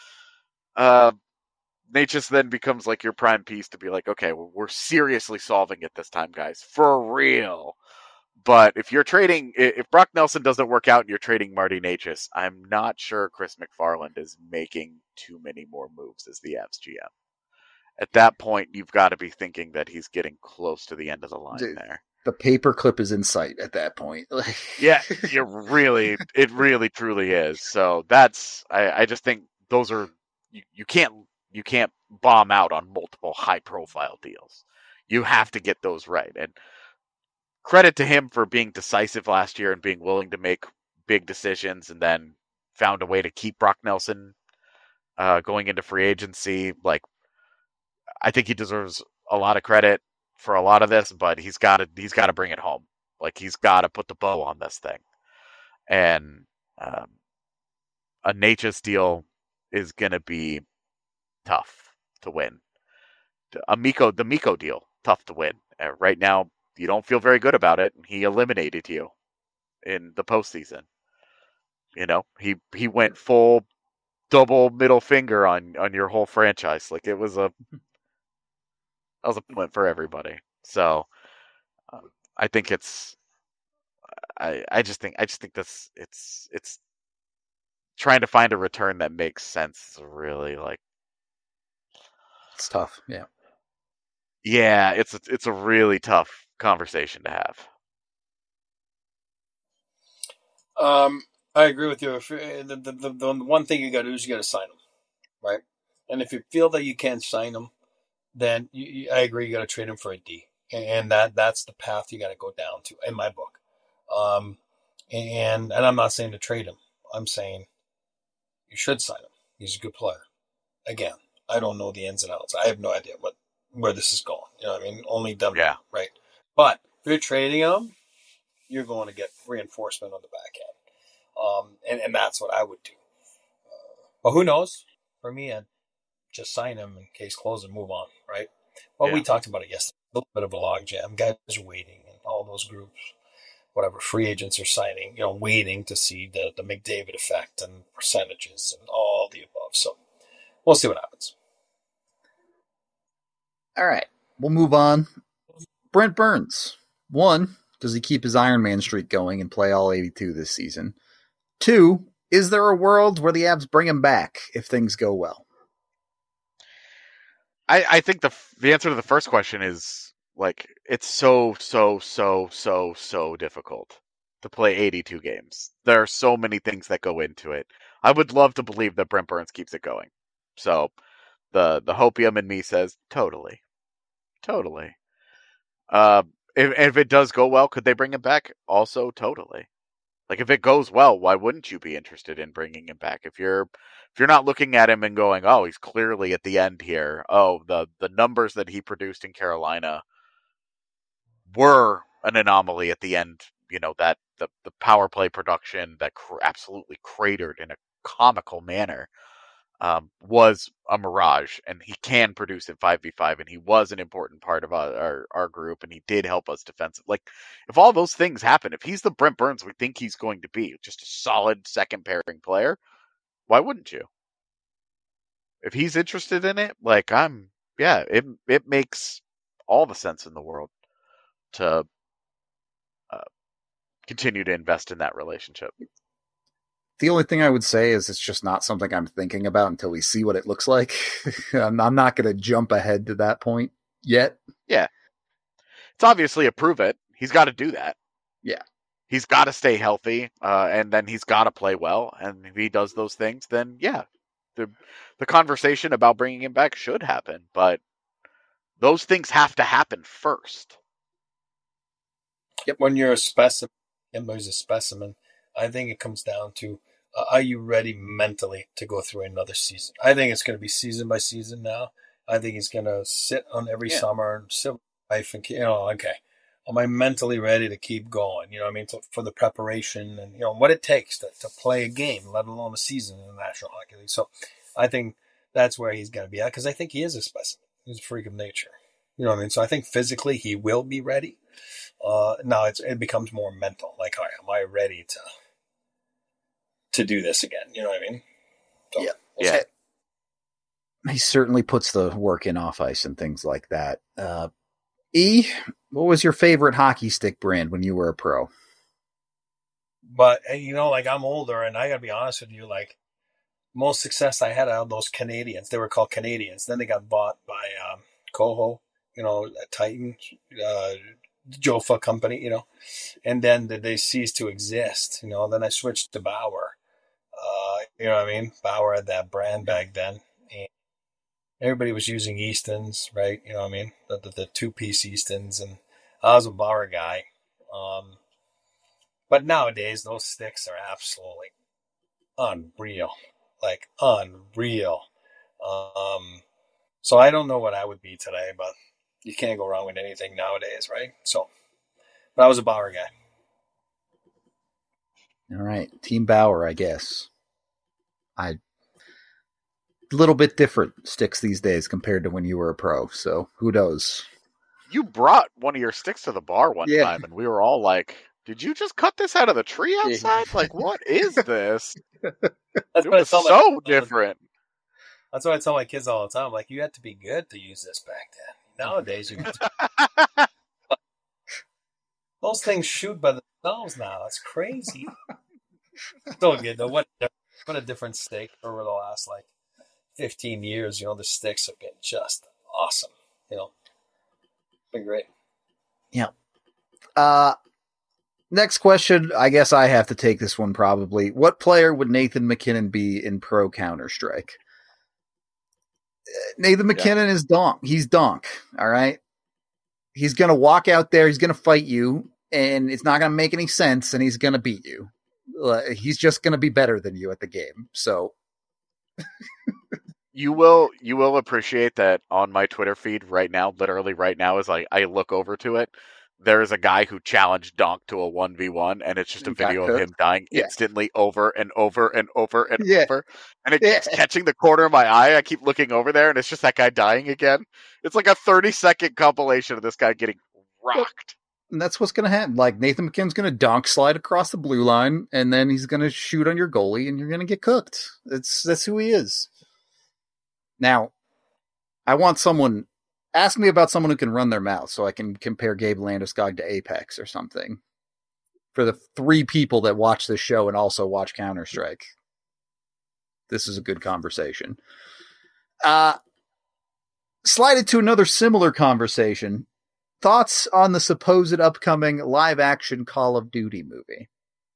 S2: Necas then becomes like your prime piece to be like, okay, we're seriously solving it this time, guys, for real. But if Brock Nelson doesn't work out and you're trading Marty Necas, I'm not sure Chris McFarland is making too many more moves as the Avs GM. At that point, you've got to be thinking that he's getting close to the end of the line there.
S1: The paperclip is in sight at that point.
S2: Yeah, it really truly is. So I just think those are, you can't bomb out on multiple high profile deals. You have to get those right. And credit to him for being decisive last year and being willing to make big decisions, and then found a way to keep Brock Nelson going into free agency. Like, I think he deserves a lot of credit for a lot of this, but he's got to bring it home. Like, he's got to put the bow on this thing. And a Necas deal is going to be tough to win. The Mikko deal, tough to win. Right now, you don't feel very good about it. He eliminated you in the postseason. He went full double middle finger on your whole franchise. Like, that was a point for everybody. So I think I just think this it's trying to find a return that makes sense. Really, like,
S1: it's tough. Yeah.
S2: Yeah, it's a really tough conversation to have.
S3: I agree with you. The one thing you got to do is you got to sign them, right? And if you feel that you can't sign them, then I agree, you got to trade him for a D, and that's the path you got to go down to in my book. And I'm not saying to trade him. I'm saying you should sign him. He's a good player. Again, I don't know the ins and outs. I have no idea where this is going. You know what I mean? Only them,
S2: yeah,
S3: right? But if you're trading him, you're going to get reinforcement on the back end. And that's what I would do. But who knows? For me, I'd just sign him in case close and move on, right? Well, we talked about it yesterday. A little bit of a logjam. Guys are waiting in all those groups. Whatever, free agents are signing, waiting to see the McDavid effect and percentages and all the above. So we'll see what happens.
S1: All right, we'll move on. Brent Burns. 1, does he keep his Iron Man streak going and play all 82 this season? 2, is there a world where the Avs bring him back if things go well?
S2: I think the answer to the first question is, like, it's so difficult to play 82 games. There are so many things that go into it. I would love to believe that Brent Burns keeps it going. So the hopium in me says totally. If it does go well, could they bring him back? Also, totally. Like, if it goes well, why wouldn't you be interested in bringing him back? If you're not looking at him and going, oh, he's clearly at the end here. Oh, the numbers that he produced in Carolina were an anomaly at the end. That the power play production that absolutely cratered in a comical manner was a mirage, and he can produce in 5v5, and he was an important part of our group, and he did help us defensively. Like, if all those things happen, if he's the Brent Burns we think he's going to be, just a solid second pairing player, why wouldn't you? If he's interested in it, like, it makes all the sense in the world to continue to invest in that relationship.
S1: The only thing I would say is it's just not something I'm thinking about until we see what it looks like. I'm not going to jump ahead to that point yet.
S2: Yeah. It's obviously a prove it. He's got to do that.
S1: Yeah.
S2: He's got to stay healthy, and then he's got to play well. And if he does those things, then yeah, the conversation about bringing him back should happen. But those things have to happen first.
S3: Yep. When you're a specimen, Kimber's a specimen. I think it comes down to, are you ready mentally to go through another season? I think it's going to be season by season now. I think he's going to sit on every summer and sit with wife and okay, am I mentally ready to keep going? You know what I mean? For the preparation and, what it takes to play a game, let alone a season in the National Hockey League. So I think that's where he's going to be at, because I think he is a specimen. He's a freak of nature. You know what I mean? So I think physically he will be ready. Now it becomes more mental. Like, all right, am I ready to do this again? You know what I mean? So,
S2: yeah.
S1: He certainly puts the work in off ice and things like that. E, what was your favorite hockey stick brand when you were a pro?
S3: But, like, I'm older, and I got to be honest with you, like, most success I had out of those Canadians. They were called Canadians. Then they got bought by Koho, Titan, Jofa company, and then they ceased to exist. Then I switched to Bauer. You know what I mean? Bauer had that brand back then. And everybody was using Eastons, right? You know what I mean? The two-piece Eastons, and I was a Bauer guy. But nowadays, those sticks are absolutely unreal. Like, unreal. So I don't know what I would be today, but you can't go wrong with anything nowadays, right? So, but I was a Bauer guy.
S1: All right. Team Bauer, I guess. A little bit different sticks these days compared to when you were a pro, so who knows?
S2: You brought one of your sticks to the bar one time, and we were all like, did you just cut this out of the tree outside? Like, what is this?
S3: That's
S2: it was so different.
S3: That's what I tell my kids all the time. Like, you had to be good to use this back then. Nowadays, those things shoot by themselves now. It's crazy. So good though. What a different stick over the last 15 years. The sticks have been just awesome. Been great.
S1: Yeah. Next question. I guess I have to take this one probably. What player would Nathan MacKinnon be in pro Counter-Strike? Nathan MacKinnon is donk. He's donk. All right. He's going to walk out there. He's going to fight you, and it's not going to make any sense, and he's going to beat you. He's just going to be better than you at the game. So
S2: you will appreciate that on my Twitter feed right now, literally right now, as I look over to it, there is a guy who challenged Donk to a 1v1, and it's just a video of him dying instantly over and over and over and over. And it keeps catching the corner of my eye. I keep looking over there, and it's just that guy dying again. It's like a 30-second compilation of this guy getting rocked.
S1: And that's what's going to happen. Like, Nathan MacKinnon's going to donk slide across the blue line, and then he's going to shoot on your goalie, and you're going to get cooked. That's who he is. Now, I want someone... Ask me about someone who can run their mouth so I can compare Gabe Landeskog to Apex or something. For the 3 people that watch this show and also watch Counter-Strike. This is a good conversation. Slided to another similar conversation. Thoughts on the supposed upcoming live-action Call of Duty movie?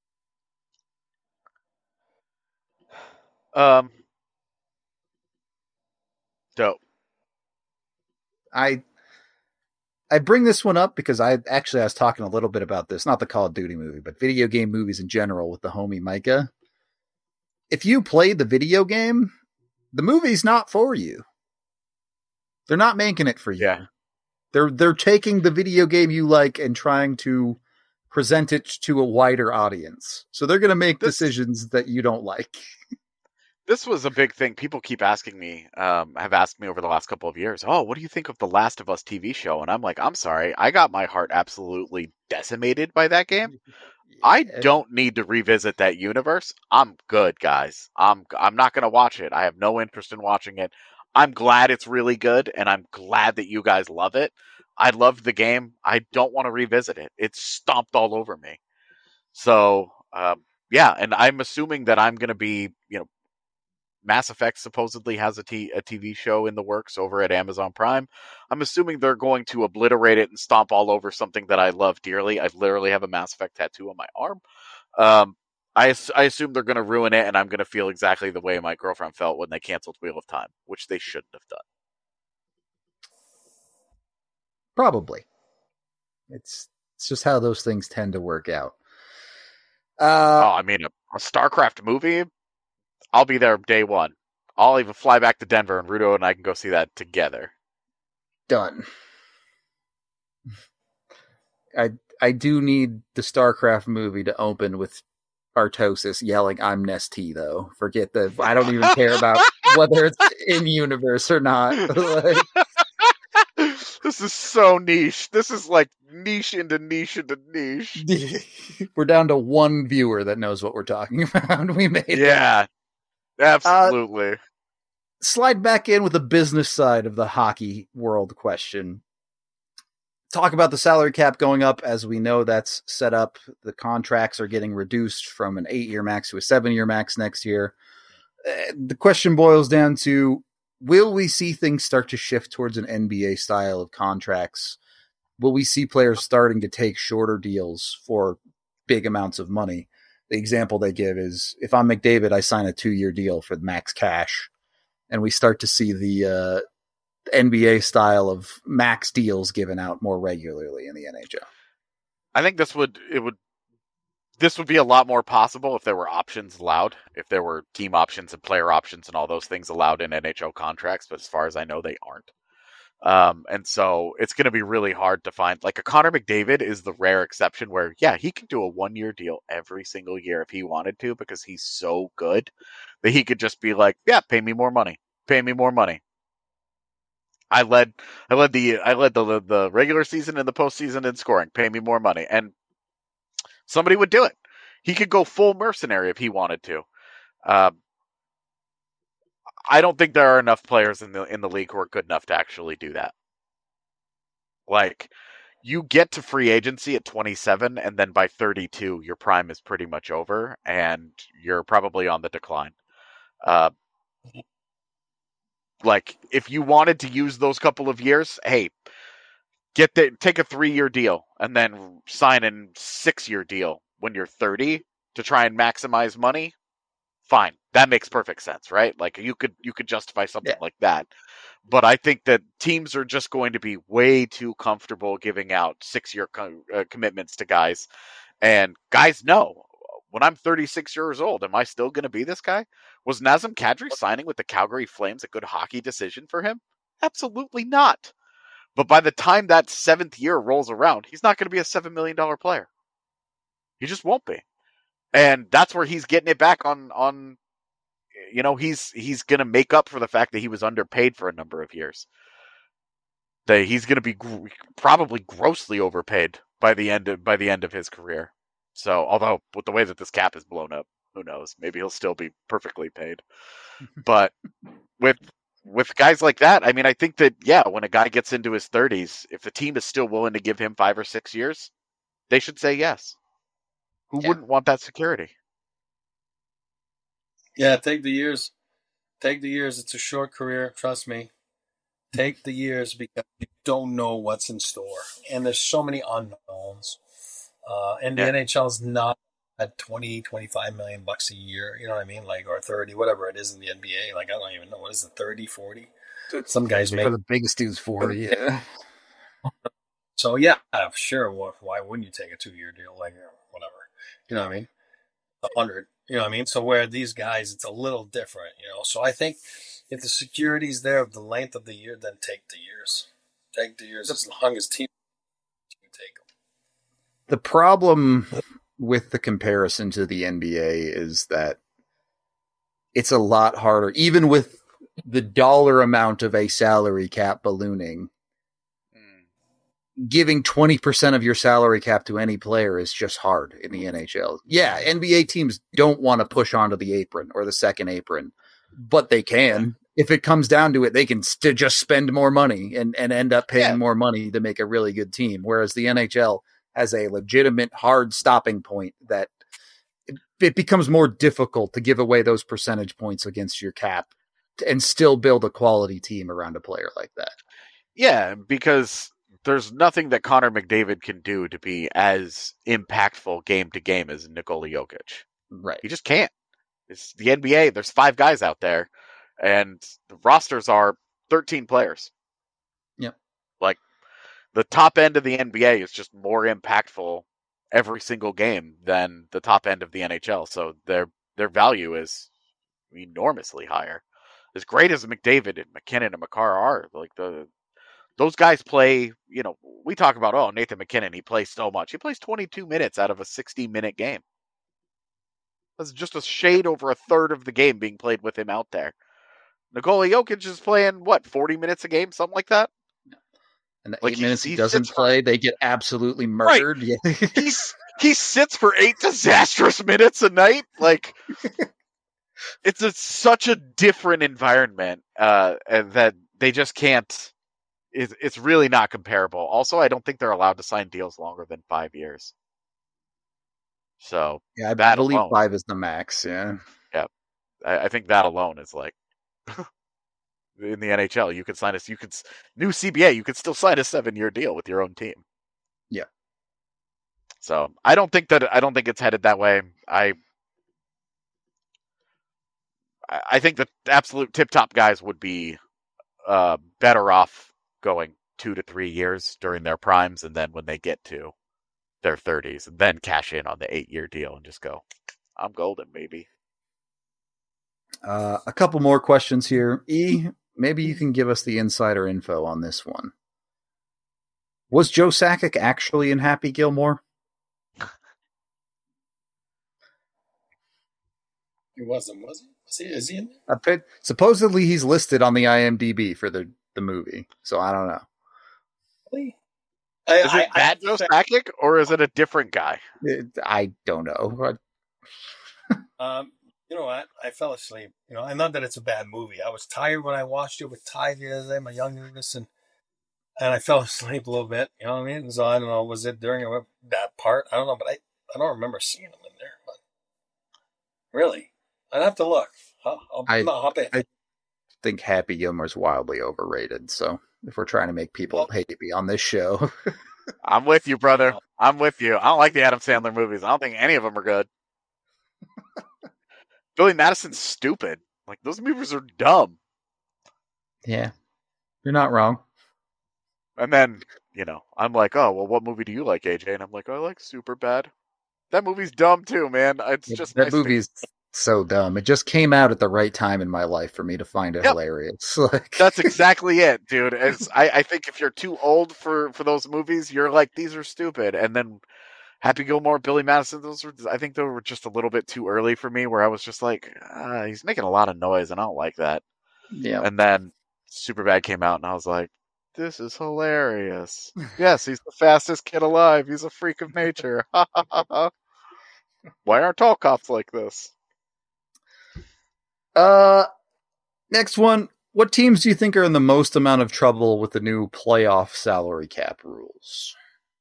S2: Dope.
S1: I bring this one up because I was talking a little bit about this, not the Call of Duty movie, but video game movies in general with the homie Micah. If you played the video game, the movie's not for you. They're not making it for you.
S2: Yeah.
S1: They're taking the video game you like and trying to present it to a wider audience. So they're going to make decisions that you don't like.
S2: This was a big thing. People keep asking me, have asked me over the last couple of years, oh, what do you think of the Last of Us TV show? And I'm like, I'm sorry. I got my heart absolutely decimated by that game. I don't need to revisit that universe. I'm good, guys. I'm not going to watch it. I have no interest in watching it. I'm glad it's really good, and I'm glad that you guys love it. I loved the game. I don't want to revisit it. It's stomped all over me. So, yeah, and I'm assuming that I'm going to be, Mass Effect supposedly has a TV show in the works over at Amazon Prime. I'm assuming they're going to obliterate it and stomp all over something that I love dearly. I literally have a Mass Effect tattoo on my arm. I assume they're going to ruin it, and I'm going to feel exactly the way my girlfriend felt when they canceled Wheel of Time, which they shouldn't have done.
S1: Probably. It's just how those things tend to work out.
S2: I mean, a StarCraft movie, I'll be there day one. I'll even fly back to Denver, and Rudo and I can go see that together.
S1: Done. I do need the StarCraft movie to open with Artosis yelling, "I'm Nestea," though. Forget the. I don't even care about whether it's in universe or not. Like,
S2: this is so niche. This is like niche into niche into niche.
S1: We're down to one viewer that knows what we're talking about. We made
S2: it. Absolutely.
S1: Slide back in with the business side of the hockey world question. Talk about the salary cap going up. As we know, that's set up. The contracts are getting reduced from an 8-year max to a 7-year max next year. The question boils down to, will we see things start to shift towards an NBA style of contracts? Will we see players starting to take shorter deals for big amounts of money? The example they give is, if I'm McDavid, I sign a 2-year deal for max cash. And we start to see the NBA style of max deals given out more regularly in the NHL.
S2: I think this would be a lot more possible if there were options allowed, if there were team options and player options and all those things allowed in NHL contracts. But as far as I know, they aren't. And so it's going to be really hard to find. Like, a Connor McDavid is the rare exception where, yeah, he can do a 1-year deal every single year if he wanted to, because he's so good that he could just be like, yeah, pay me more money. Pay me more money. I led the regular season and the postseason in scoring. Pay me more money. And somebody would do it. He could go full mercenary if he wanted to. I don't think there are enough players in the league who are good enough to actually do that. Like, you get to free agency at 27, and then by 32, your prime is pretty much over, and you're probably on the decline. Like, if you wanted to use those couple of years, hey, take a 3-year deal and then sign a 6-year deal when you're 30 to try and maximize money. Fine, that makes perfect sense, right? Like, you could justify something like that. But I think that teams are just going to be way too comfortable giving out 6-year commitments to guys, and guys know, when I'm 36 years old, am I still going to be this guy? Was Nazem Kadri signing with the Calgary Flames a good hockey decision for him? Absolutely not. But by the time that 7th year rolls around, he's not going to be a $7 million player. He just won't be. And that's where he's getting it back on you know, he's going to make up for the fact that he was underpaid for a number of years. That he's going to be probably grossly overpaid by the end of his career. So, although with the way that this cap is blown up, who knows? Maybe he'll still be perfectly paid. But with guys like that, I mean, I think that, yeah, when a guy gets into his 30s, if the team is still willing to give him 5 or 6 years, they should say yes. Who wouldn't want that security?
S3: Yeah, take the years. Take the years. It's a short career. Trust me. Take the years, because you don't know what's in store. And there's so many unknowns. And the NHL's not at 20, 25 million bucks a year. You know what I mean? Like, or 30, whatever it is in the NBA. Like, I don't even know. What is it, 30, 40? Some guys make.
S1: For the biggest dudes, 40, yeah.
S3: So, yeah, sure. Why wouldn't you take a 2-year deal? Like, whatever. You know what I mean? 100. You know what I mean? So where these guys, it's a little different, you know. So I think if the security's there of the length of the year, then take the years. Take the years as long as team can take them.
S1: The problem with the comparison to the NBA is that it's a lot harder, even with the dollar amount of a salary cap ballooning. Giving 20% of your salary cap to any player is just hard in the NHL. Yeah, NBA teams don't want to push onto the apron or the second apron, but they can. If it comes down to it, they can just spend more money and end up paying more money to make a really good team. Whereas the NHL has a legitimate hard stopping point that it becomes more difficult to give away those percentage points against your cap and still build a quality team around a player like that.
S2: Yeah, because there's nothing that Connor McDavid can do to be as impactful game to game as Nikola Jokic.
S1: Right.
S2: He just can't. It's the NBA. There's 5 guys out there, and the rosters are 13 players.
S1: Yep. Like,
S2: the top end of the NBA is just more impactful every single game than the top end of the NHL. So their value is enormously higher. As great as McDavid and McKinnon and Makar are, like, the those guys play, we talk about, Nathan MacKinnon, he plays so much. He plays 22 minutes out of a 60-minute game. That's just a shade over a third of the game being played with him out there. Nikola Jokic is playing, 40 minutes a game? Something like that?
S1: And the 8 minutes he doesn't play, they get absolutely murdered.
S2: Right. Yeah. He sits for 8 disastrous minutes a night. Like, it's such a different environment that they just can't. It's really not comparable. Also, I don't think they're allowed to sign deals longer than 5 years. So
S1: yeah, I believe 5 is the max. Yeah,
S2: I think that alone is like in the NHL. You could sign new CBA. You could still sign a 7-year deal with your own team.
S1: Yeah.
S2: So I don't think it's headed that way. I think the absolute tip-top guys would be better off going 2 to 3 years during their primes, and then when they get to their 30s, and then cash in on the 8-year deal and just go, I'm golden, baby.
S1: A couple more questions here. E, maybe you can give us the insider info on this one. Was Joe Sakic actually in Happy Gilmore?
S3: He wasn't, was he? Is he in
S1: there? Supposedly he's listed on the IMDb for the movie, so I don't know.
S3: Really?
S2: Is it bad Joe Sakic, or is it a different guy?
S1: I don't know.
S3: You know what? I fell asleep. I know that it's a bad movie. I was tired when I watched it with Ty the other day, my youngest, and I fell asleep a little bit. You know what I mean? So I don't know. Was it during that part? I don't know, but I don't remember seeing him in there. But really, I'd have to look.
S1: I think Happy Gilmore's wildly overrated. So if we're trying to make people hate me on this show,
S2: I'm with you, brother. I'm with you. I don't like the Adam Sandler movies. I don't think any of them are good. Billy Madison's stupid. Like, those movies are dumb.
S1: Yeah, you're not wrong.
S2: And then, I'm like, oh, well, what movie do you like, AJ? And I'm like, oh, I like Superbad. That movie's dumb too, man. It's just
S1: that movie's so dumb. It just came out at the right time in my life for me to find it hilarious.
S2: That's exactly it, dude. I think if you're too old for those movies, you're like, these are stupid. And then Happy Gilmore, Billy Madison, I think they were just a little bit too early for me, where I was just like, he's making a lot of noise, and I don't like that.
S1: Yeah.
S2: And then Superbad came out, and I was like, this is hilarious. Yes, he's the fastest kid alive. He's a freak of nature. Why aren't all cops like this?
S1: Next one. What teams do you think are in the most amount of trouble with the new playoff salary cap rules?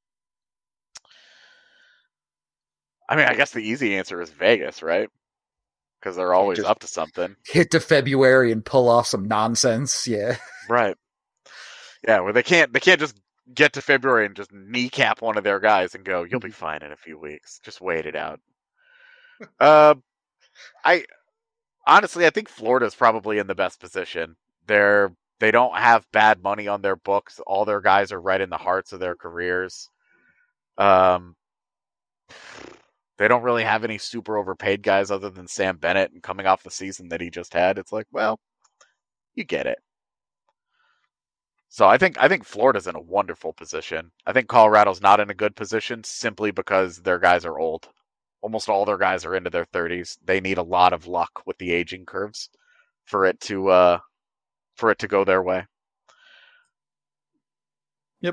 S2: I mean, I guess the easy answer is Vegas, right? Because they're always up to something.
S1: Hit to February and pull off some nonsense, yeah.
S2: Right. Yeah, where they can't just get to February and just kneecap one of their guys and go, you'll be fine in a few weeks. Just wait it out. I think Florida's probably in the best position. They don't have bad money on their books. All their guys are right in the hearts of their careers. They don't really have any super overpaid guys other than Sam Bennett, and coming off the season that he just had, it's like, well, you get it. So I think Florida's in a wonderful position. I think Colorado's not in a good position simply because their guys are old. Almost all their guys are into their 30s. They need a lot of luck with the aging curves for it to go their way.
S1: Yep.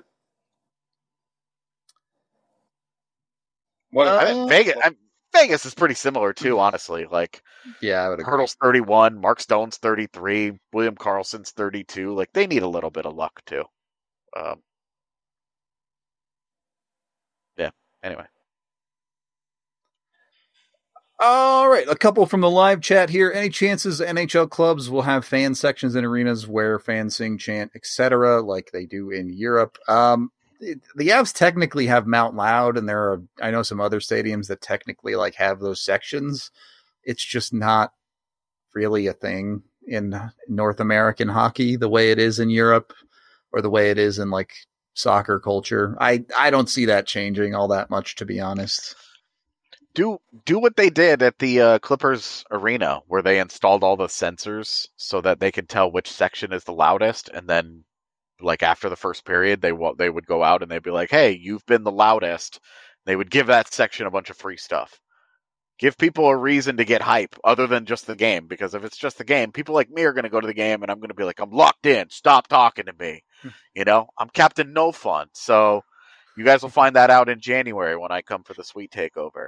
S2: Vegas is pretty similar too, honestly. Like,
S1: yeah, I would agree.
S2: Hurdle's 31, Mark Stone's 33, William Karlsson's 32. Like, they need a little bit of luck too. Yeah. Anyway.
S1: All right, a couple from the live chat here. Any chances NHL clubs will have fan sections in arenas where fans sing, chant, etc., like they do in Europe? The Avs technically have Mount Loud, and there are, I know, some other stadiums that technically like have those sections. It's just not really a thing in North American hockey the way it is in Europe, or the way it is in like soccer culture. I don't see that changing all that much, to be honest.
S2: Do what they did at the Clippers arena, where they installed all the sensors so that they could tell which section is the loudest, and then like after the first period, they would go out and they'd be like, "Hey, you've been the loudest." They would give that section a bunch of free stuff. Give people a reason to get hype other than just the game, because if it's just the game, people like me are going to go to the game and I'm going to be like, I'm locked in. Stop talking to me. I'm Captain No Fun. So you guys will find that out in January when I come for the Sweet Takeover.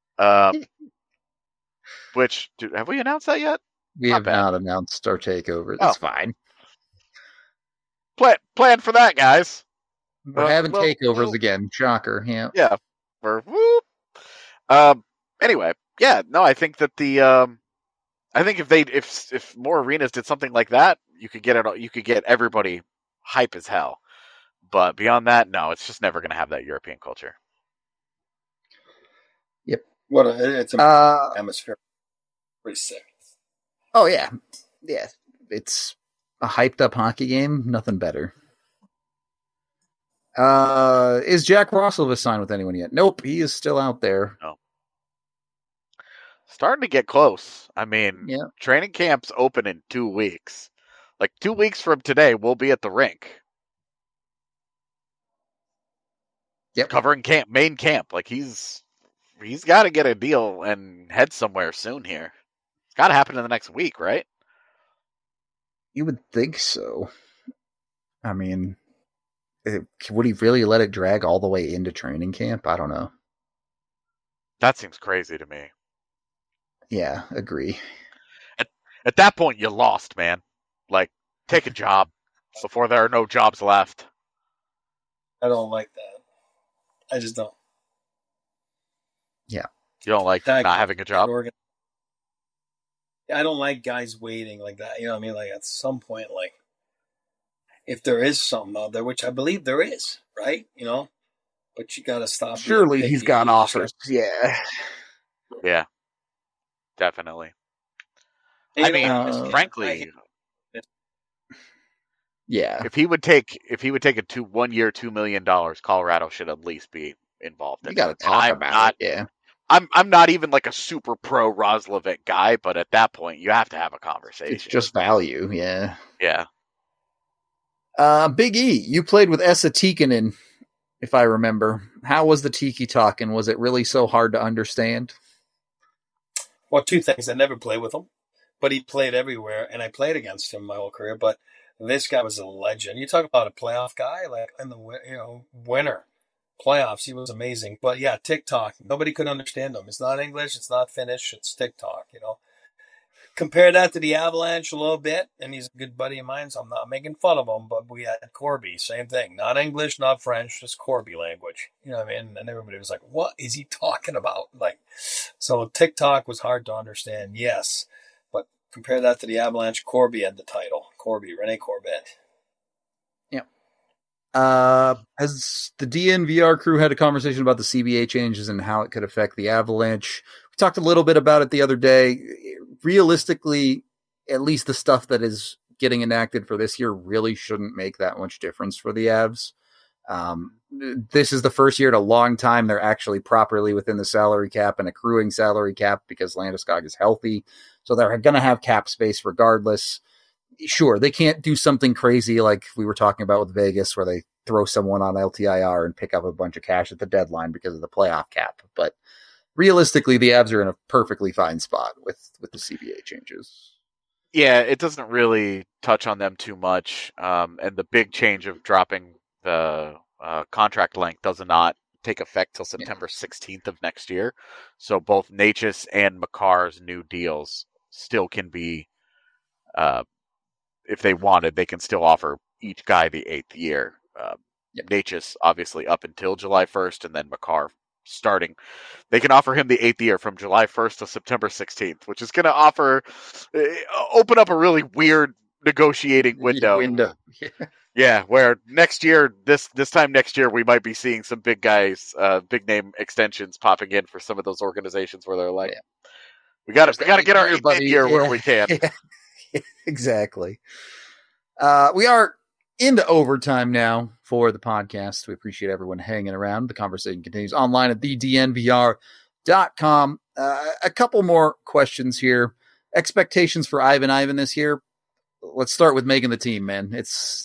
S2: Which, have we announced that yet?
S1: We have not announced our takeover. That's fine.
S2: Plan for that, guys.
S1: We're having takeovers again. Shocker. Yeah.
S2: Yeah. Anyway, yeah, no, I think that I think if more arenas did something like that, you could get everybody hype as hell. But beyond that, no, it's just never going to have that European culture.
S1: Yep.
S3: It's a atmosphere. Pretty sick.
S1: Oh yeah. Yeah. It's a hyped up hockey game. Nothing better. Is Jack Roslovic signed with anyone yet? Nope. He is still out there.
S2: No. Starting to get close. I mean, training camp's open in 2 weeks. Like 2 weeks from today, we'll be at the rink.
S1: Yep.
S2: Covering main camp. Like he's got to get a deal and head somewhere soon here. It's got to happen in the next week, right?
S1: You would think so. I mean, would he really let it drag all the way into training camp? I don't know.
S2: That seems crazy to me.
S1: Yeah, agree.
S2: At that point, you lost, man. Like, take a job before there are no jobs left.
S3: I don't like that. I just don't.
S1: Yeah.
S2: You don't like not having a job?
S3: I don't like guys waiting like that. You know what I mean? Like, at some point, like, if there is something out there, which I believe there is, right? But you got to stop.
S1: Surely he's got offers. Yeah.
S2: Yeah. Definitely. I mean, frankly,
S1: yeah.
S2: If he would take a 1 year, $2 million, Colorado should at least be involved in it.
S1: You got to talk about it. Yeah.
S2: I'm not even like a super pro Roslovic guy, but at that point, you have to have a conversation.
S1: It's just value. Yeah.
S2: Yeah.
S1: Big E, you played with Esa Tikkanen, if I remember. How was the Tiki talking? Was it really so hard to understand?
S3: Well, two things. I never played with him, but he played everywhere, and I played against him my whole career. But this guy was a legend. You talk about a playoff guy, like in the winter playoffs, he was amazing. But yeah, TikTok, nobody could understand him. It's not English, it's not Finnish, it's TikTok. Compare that to the Avalanche a little bit, and he's a good buddy of mine, so I'm not making fun of him. But we had Corby, same thing, not English, not French, just Corby language. You know what I mean? And everybody was like, "What is he talking about?" Like, so TikTok was hard to understand, yes, but compare that to the Avalanche. Corby had the title, Rene Corbett.
S1: Yeah. Has the DNVR crew had a conversation about the CBA changes and how it could affect the Avalanche? We talked a little bit about it the other day. Realistically, at least the stuff that is getting enacted for this year really shouldn't make that much difference for the Avs. This is the first year in a long time they're actually properly within the salary cap and accruing salary cap because Landeskog is healthy. So they're going to have cap space regardless. Sure, they can't do something crazy like we were talking about with Vegas where they throw someone on LTIR and pick up a bunch of cash at the deadline because of the playoff cap. But realistically, the Avs are in a perfectly fine spot with the CBA changes.
S2: Yeah, it doesn't really touch on them too much. And the big change of dropping the contract length does not take effect till September 16th of next year. So both Necas and Makar's new deals still can be, if they wanted, they can still offer each guy the 8th year. Necas obviously up until July 1st, and then Makar starting. They can offer him the 8th year from July 1st to September 16th, which is going to open up a really weird negotiating window. Yeah, where next year, this time next year, we might be seeing some big guys, big name extensions popping in for some of those organizations where they're like, we got to get our 8th year where we can.
S1: Yeah. Exactly. We are into overtime now for the podcast. We appreciate everyone hanging around. The conversation continues online at thednvr.com. A couple more questions here. Expectations for Ivan this year. Let's start with making the team, man.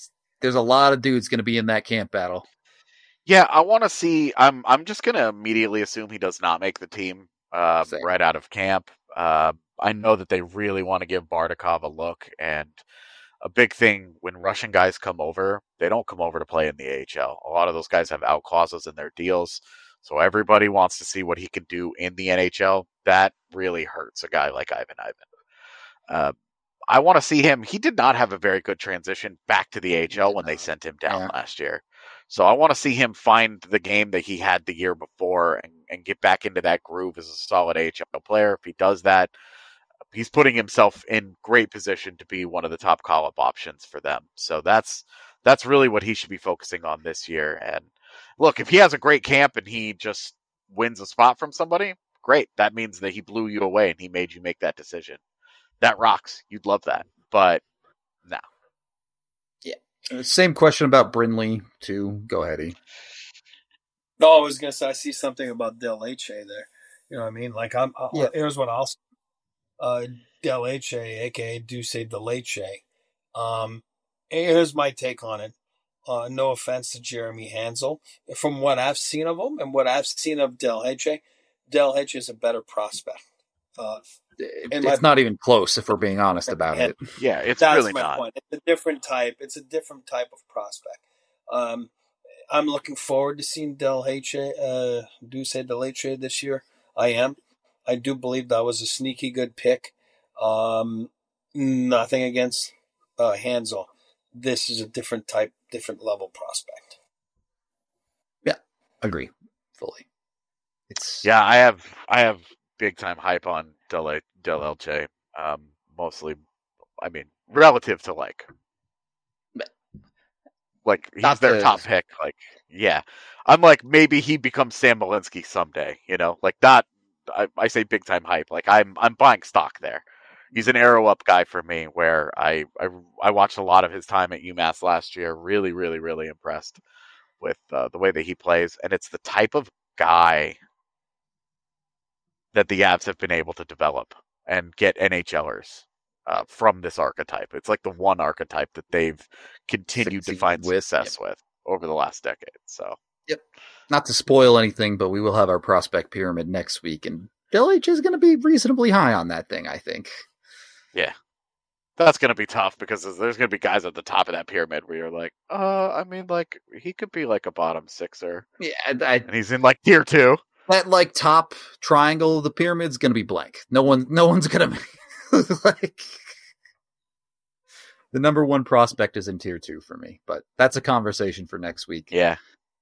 S1: there's a lot of dudes going to be in that camp battle.
S2: Yeah, I want to see. I'm just going to immediately assume he does not make the team right out of camp. I know that they really want to give Bardakov a look, and a big thing when Russian guys come over, they don't come over to play in the AHL. A lot of those guys have out clauses in their deals, so everybody wants to see what he can do in the NHL. That really hurts a guy like Ivan Ivan. I want to see him. He did not have a very good transition back to the AHL when they sent him down last year. So I want to see him find the game that he had the year before and get back into that groove as a solid AHL player. If he does that, he's putting himself in great position to be one of the top call-up options for them. So that's really what he should be focusing on this year. And look, if he has a great camp and he just wins a spot from somebody, great. That means that he blew you away and he made you make that decision. That rocks. You'd love that. But no.
S1: Yeah. Same question about Brindley, too. Go ahead, E.
S3: No, I was going to say, I see something about Del Leche there. You know what I mean? Like, here's what I'll say. Del Leche, a.k.a. Deuce de Leche. Here's my take on it. No offense to Jeremy Hansel. From what I've seen of him and what I've seen of Del Leche is a better prospect.
S1: It's not even close, if we're being honest about it.
S2: Yeah, it's
S3: That's
S2: really
S3: my
S2: not.
S3: point. It's a different type. It's a different type of prospect. I'm looking forward to seeing Deuce de Leche this year. I am. I do believe that was a sneaky good pick. Nothing against Hansel. This is a different type, different level prospect.
S1: Yeah, agree fully.
S2: I have big time hype on Del Leche. Mostly, I mean, relative to like he's their top pick. Like, yeah, I'm like maybe he becomes Sam Malinsky someday. You know, like that. I say big time hype. Like I'm buying stock there. He's an arrow up guy for me. Where I watched a lot of his time at UMass last year. Really, really, really impressed with the way that he plays, and it's the type of guy that the Avs have been able to develop and get NHLers from this archetype. It's like the one archetype that they've continued to find success with over the last decade. So,
S1: yep. Not to spoil anything, but we will have our prospect pyramid next week, and Del Leche is going to be reasonably high on that thing, I think.
S2: Yeah. That's going to be tough because there's going to be guys at the top of that pyramid where you're like, I mean, like, he could be like a bottom sixer.
S1: Yeah.
S2: And he's in like tier 2.
S1: That like top triangle of the pyramid's going to be blank. No one's going to like the number one prospect is in tier 2 for me, but that's a conversation for next week.
S2: Yeah.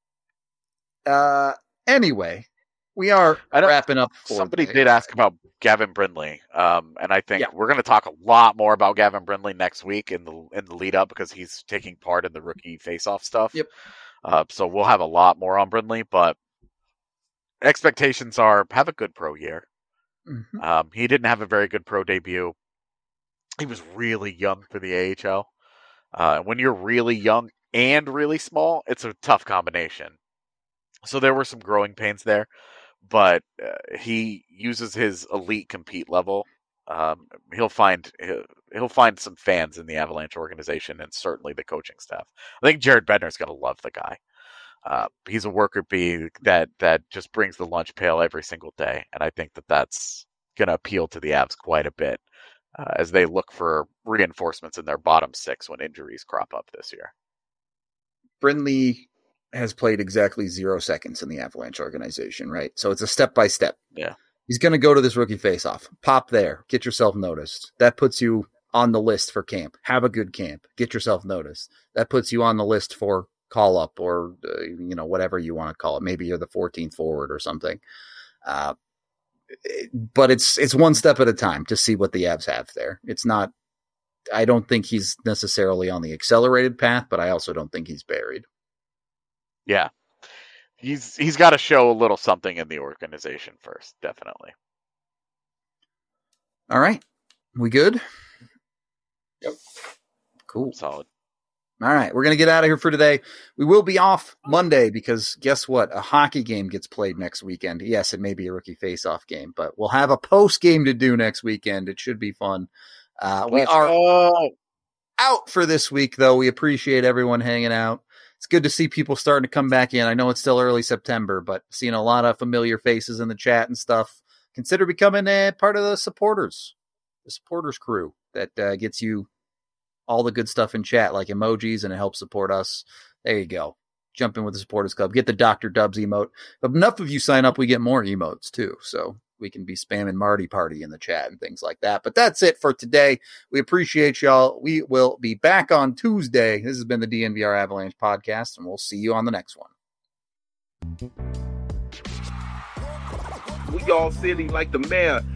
S1: Anyway, we are wrapping up.
S2: Somebody did ask about Gavin Brindley, and I think we're going to talk a lot more about Gavin Brindley next week in the lead up because he's taking part in the rookie face-off stuff.
S1: Yep.
S2: So we'll have a lot more on Brindley, but expectations are have a good pro year. Mm-hmm. He didn't have a very good pro debut. He was really young for the AHL. When you're really young and really small, it's a tough combination. So there were some growing pains there, but he uses his elite compete level. He'll find some fans in the Avalanche organization and certainly the coaching staff. I think Jared Bednar's going to love the guy. He's a worker bee that just brings the lunch pail every single day, and I think that's going to appeal to the Avs quite a bit as they look for reinforcements in their bottom 6 when injuries crop up this year.
S1: Brindley has played exactly 0 seconds in the Avalanche organization, right? So it's a step-by-step.
S2: Yeah.
S1: He's going to go to this rookie face-off. Pop there. Get yourself noticed. That puts you on the list for camp. Have a good camp. Get yourself noticed. That puts you on the list for call-up or, whatever you want to call it. Maybe you're the 14th forward or something. But it's one step at a time to see what the Avs have there. It's not – I don't think he's necessarily on the accelerated path, but I also don't think he's buried.
S2: Yeah. He's got to show a little something in the organization first, definitely.
S1: All right. We good?
S3: Yep.
S1: Cool.
S2: Solid.
S1: All right. We're going to get out of here for today. We will be off Monday because guess what? A hockey game gets played next weekend. Yes, it may be a rookie face-off game, but we'll have a post game to do next weekend. It should be fun. We are out for this week, though. We appreciate everyone hanging out. It's good to see people starting to come back in. I know it's still early September, but seeing a lot of familiar faces in the chat and stuff. Consider becoming a part of the supporters crew that gets you all the good stuff in chat, like emojis, and it helps support us. There you go. Jump in with the supporters club. Get the Dr. Dubs emote. If enough of you sign up, we get more emotes too. So we can be spamming Marty Party in the chat and things like that. But that's it for today. We appreciate y'all. We will be back on Tuesday. This has been the DNVR Avalanche podcast, and we'll see you on the next one.
S5: We all silly like the mayor.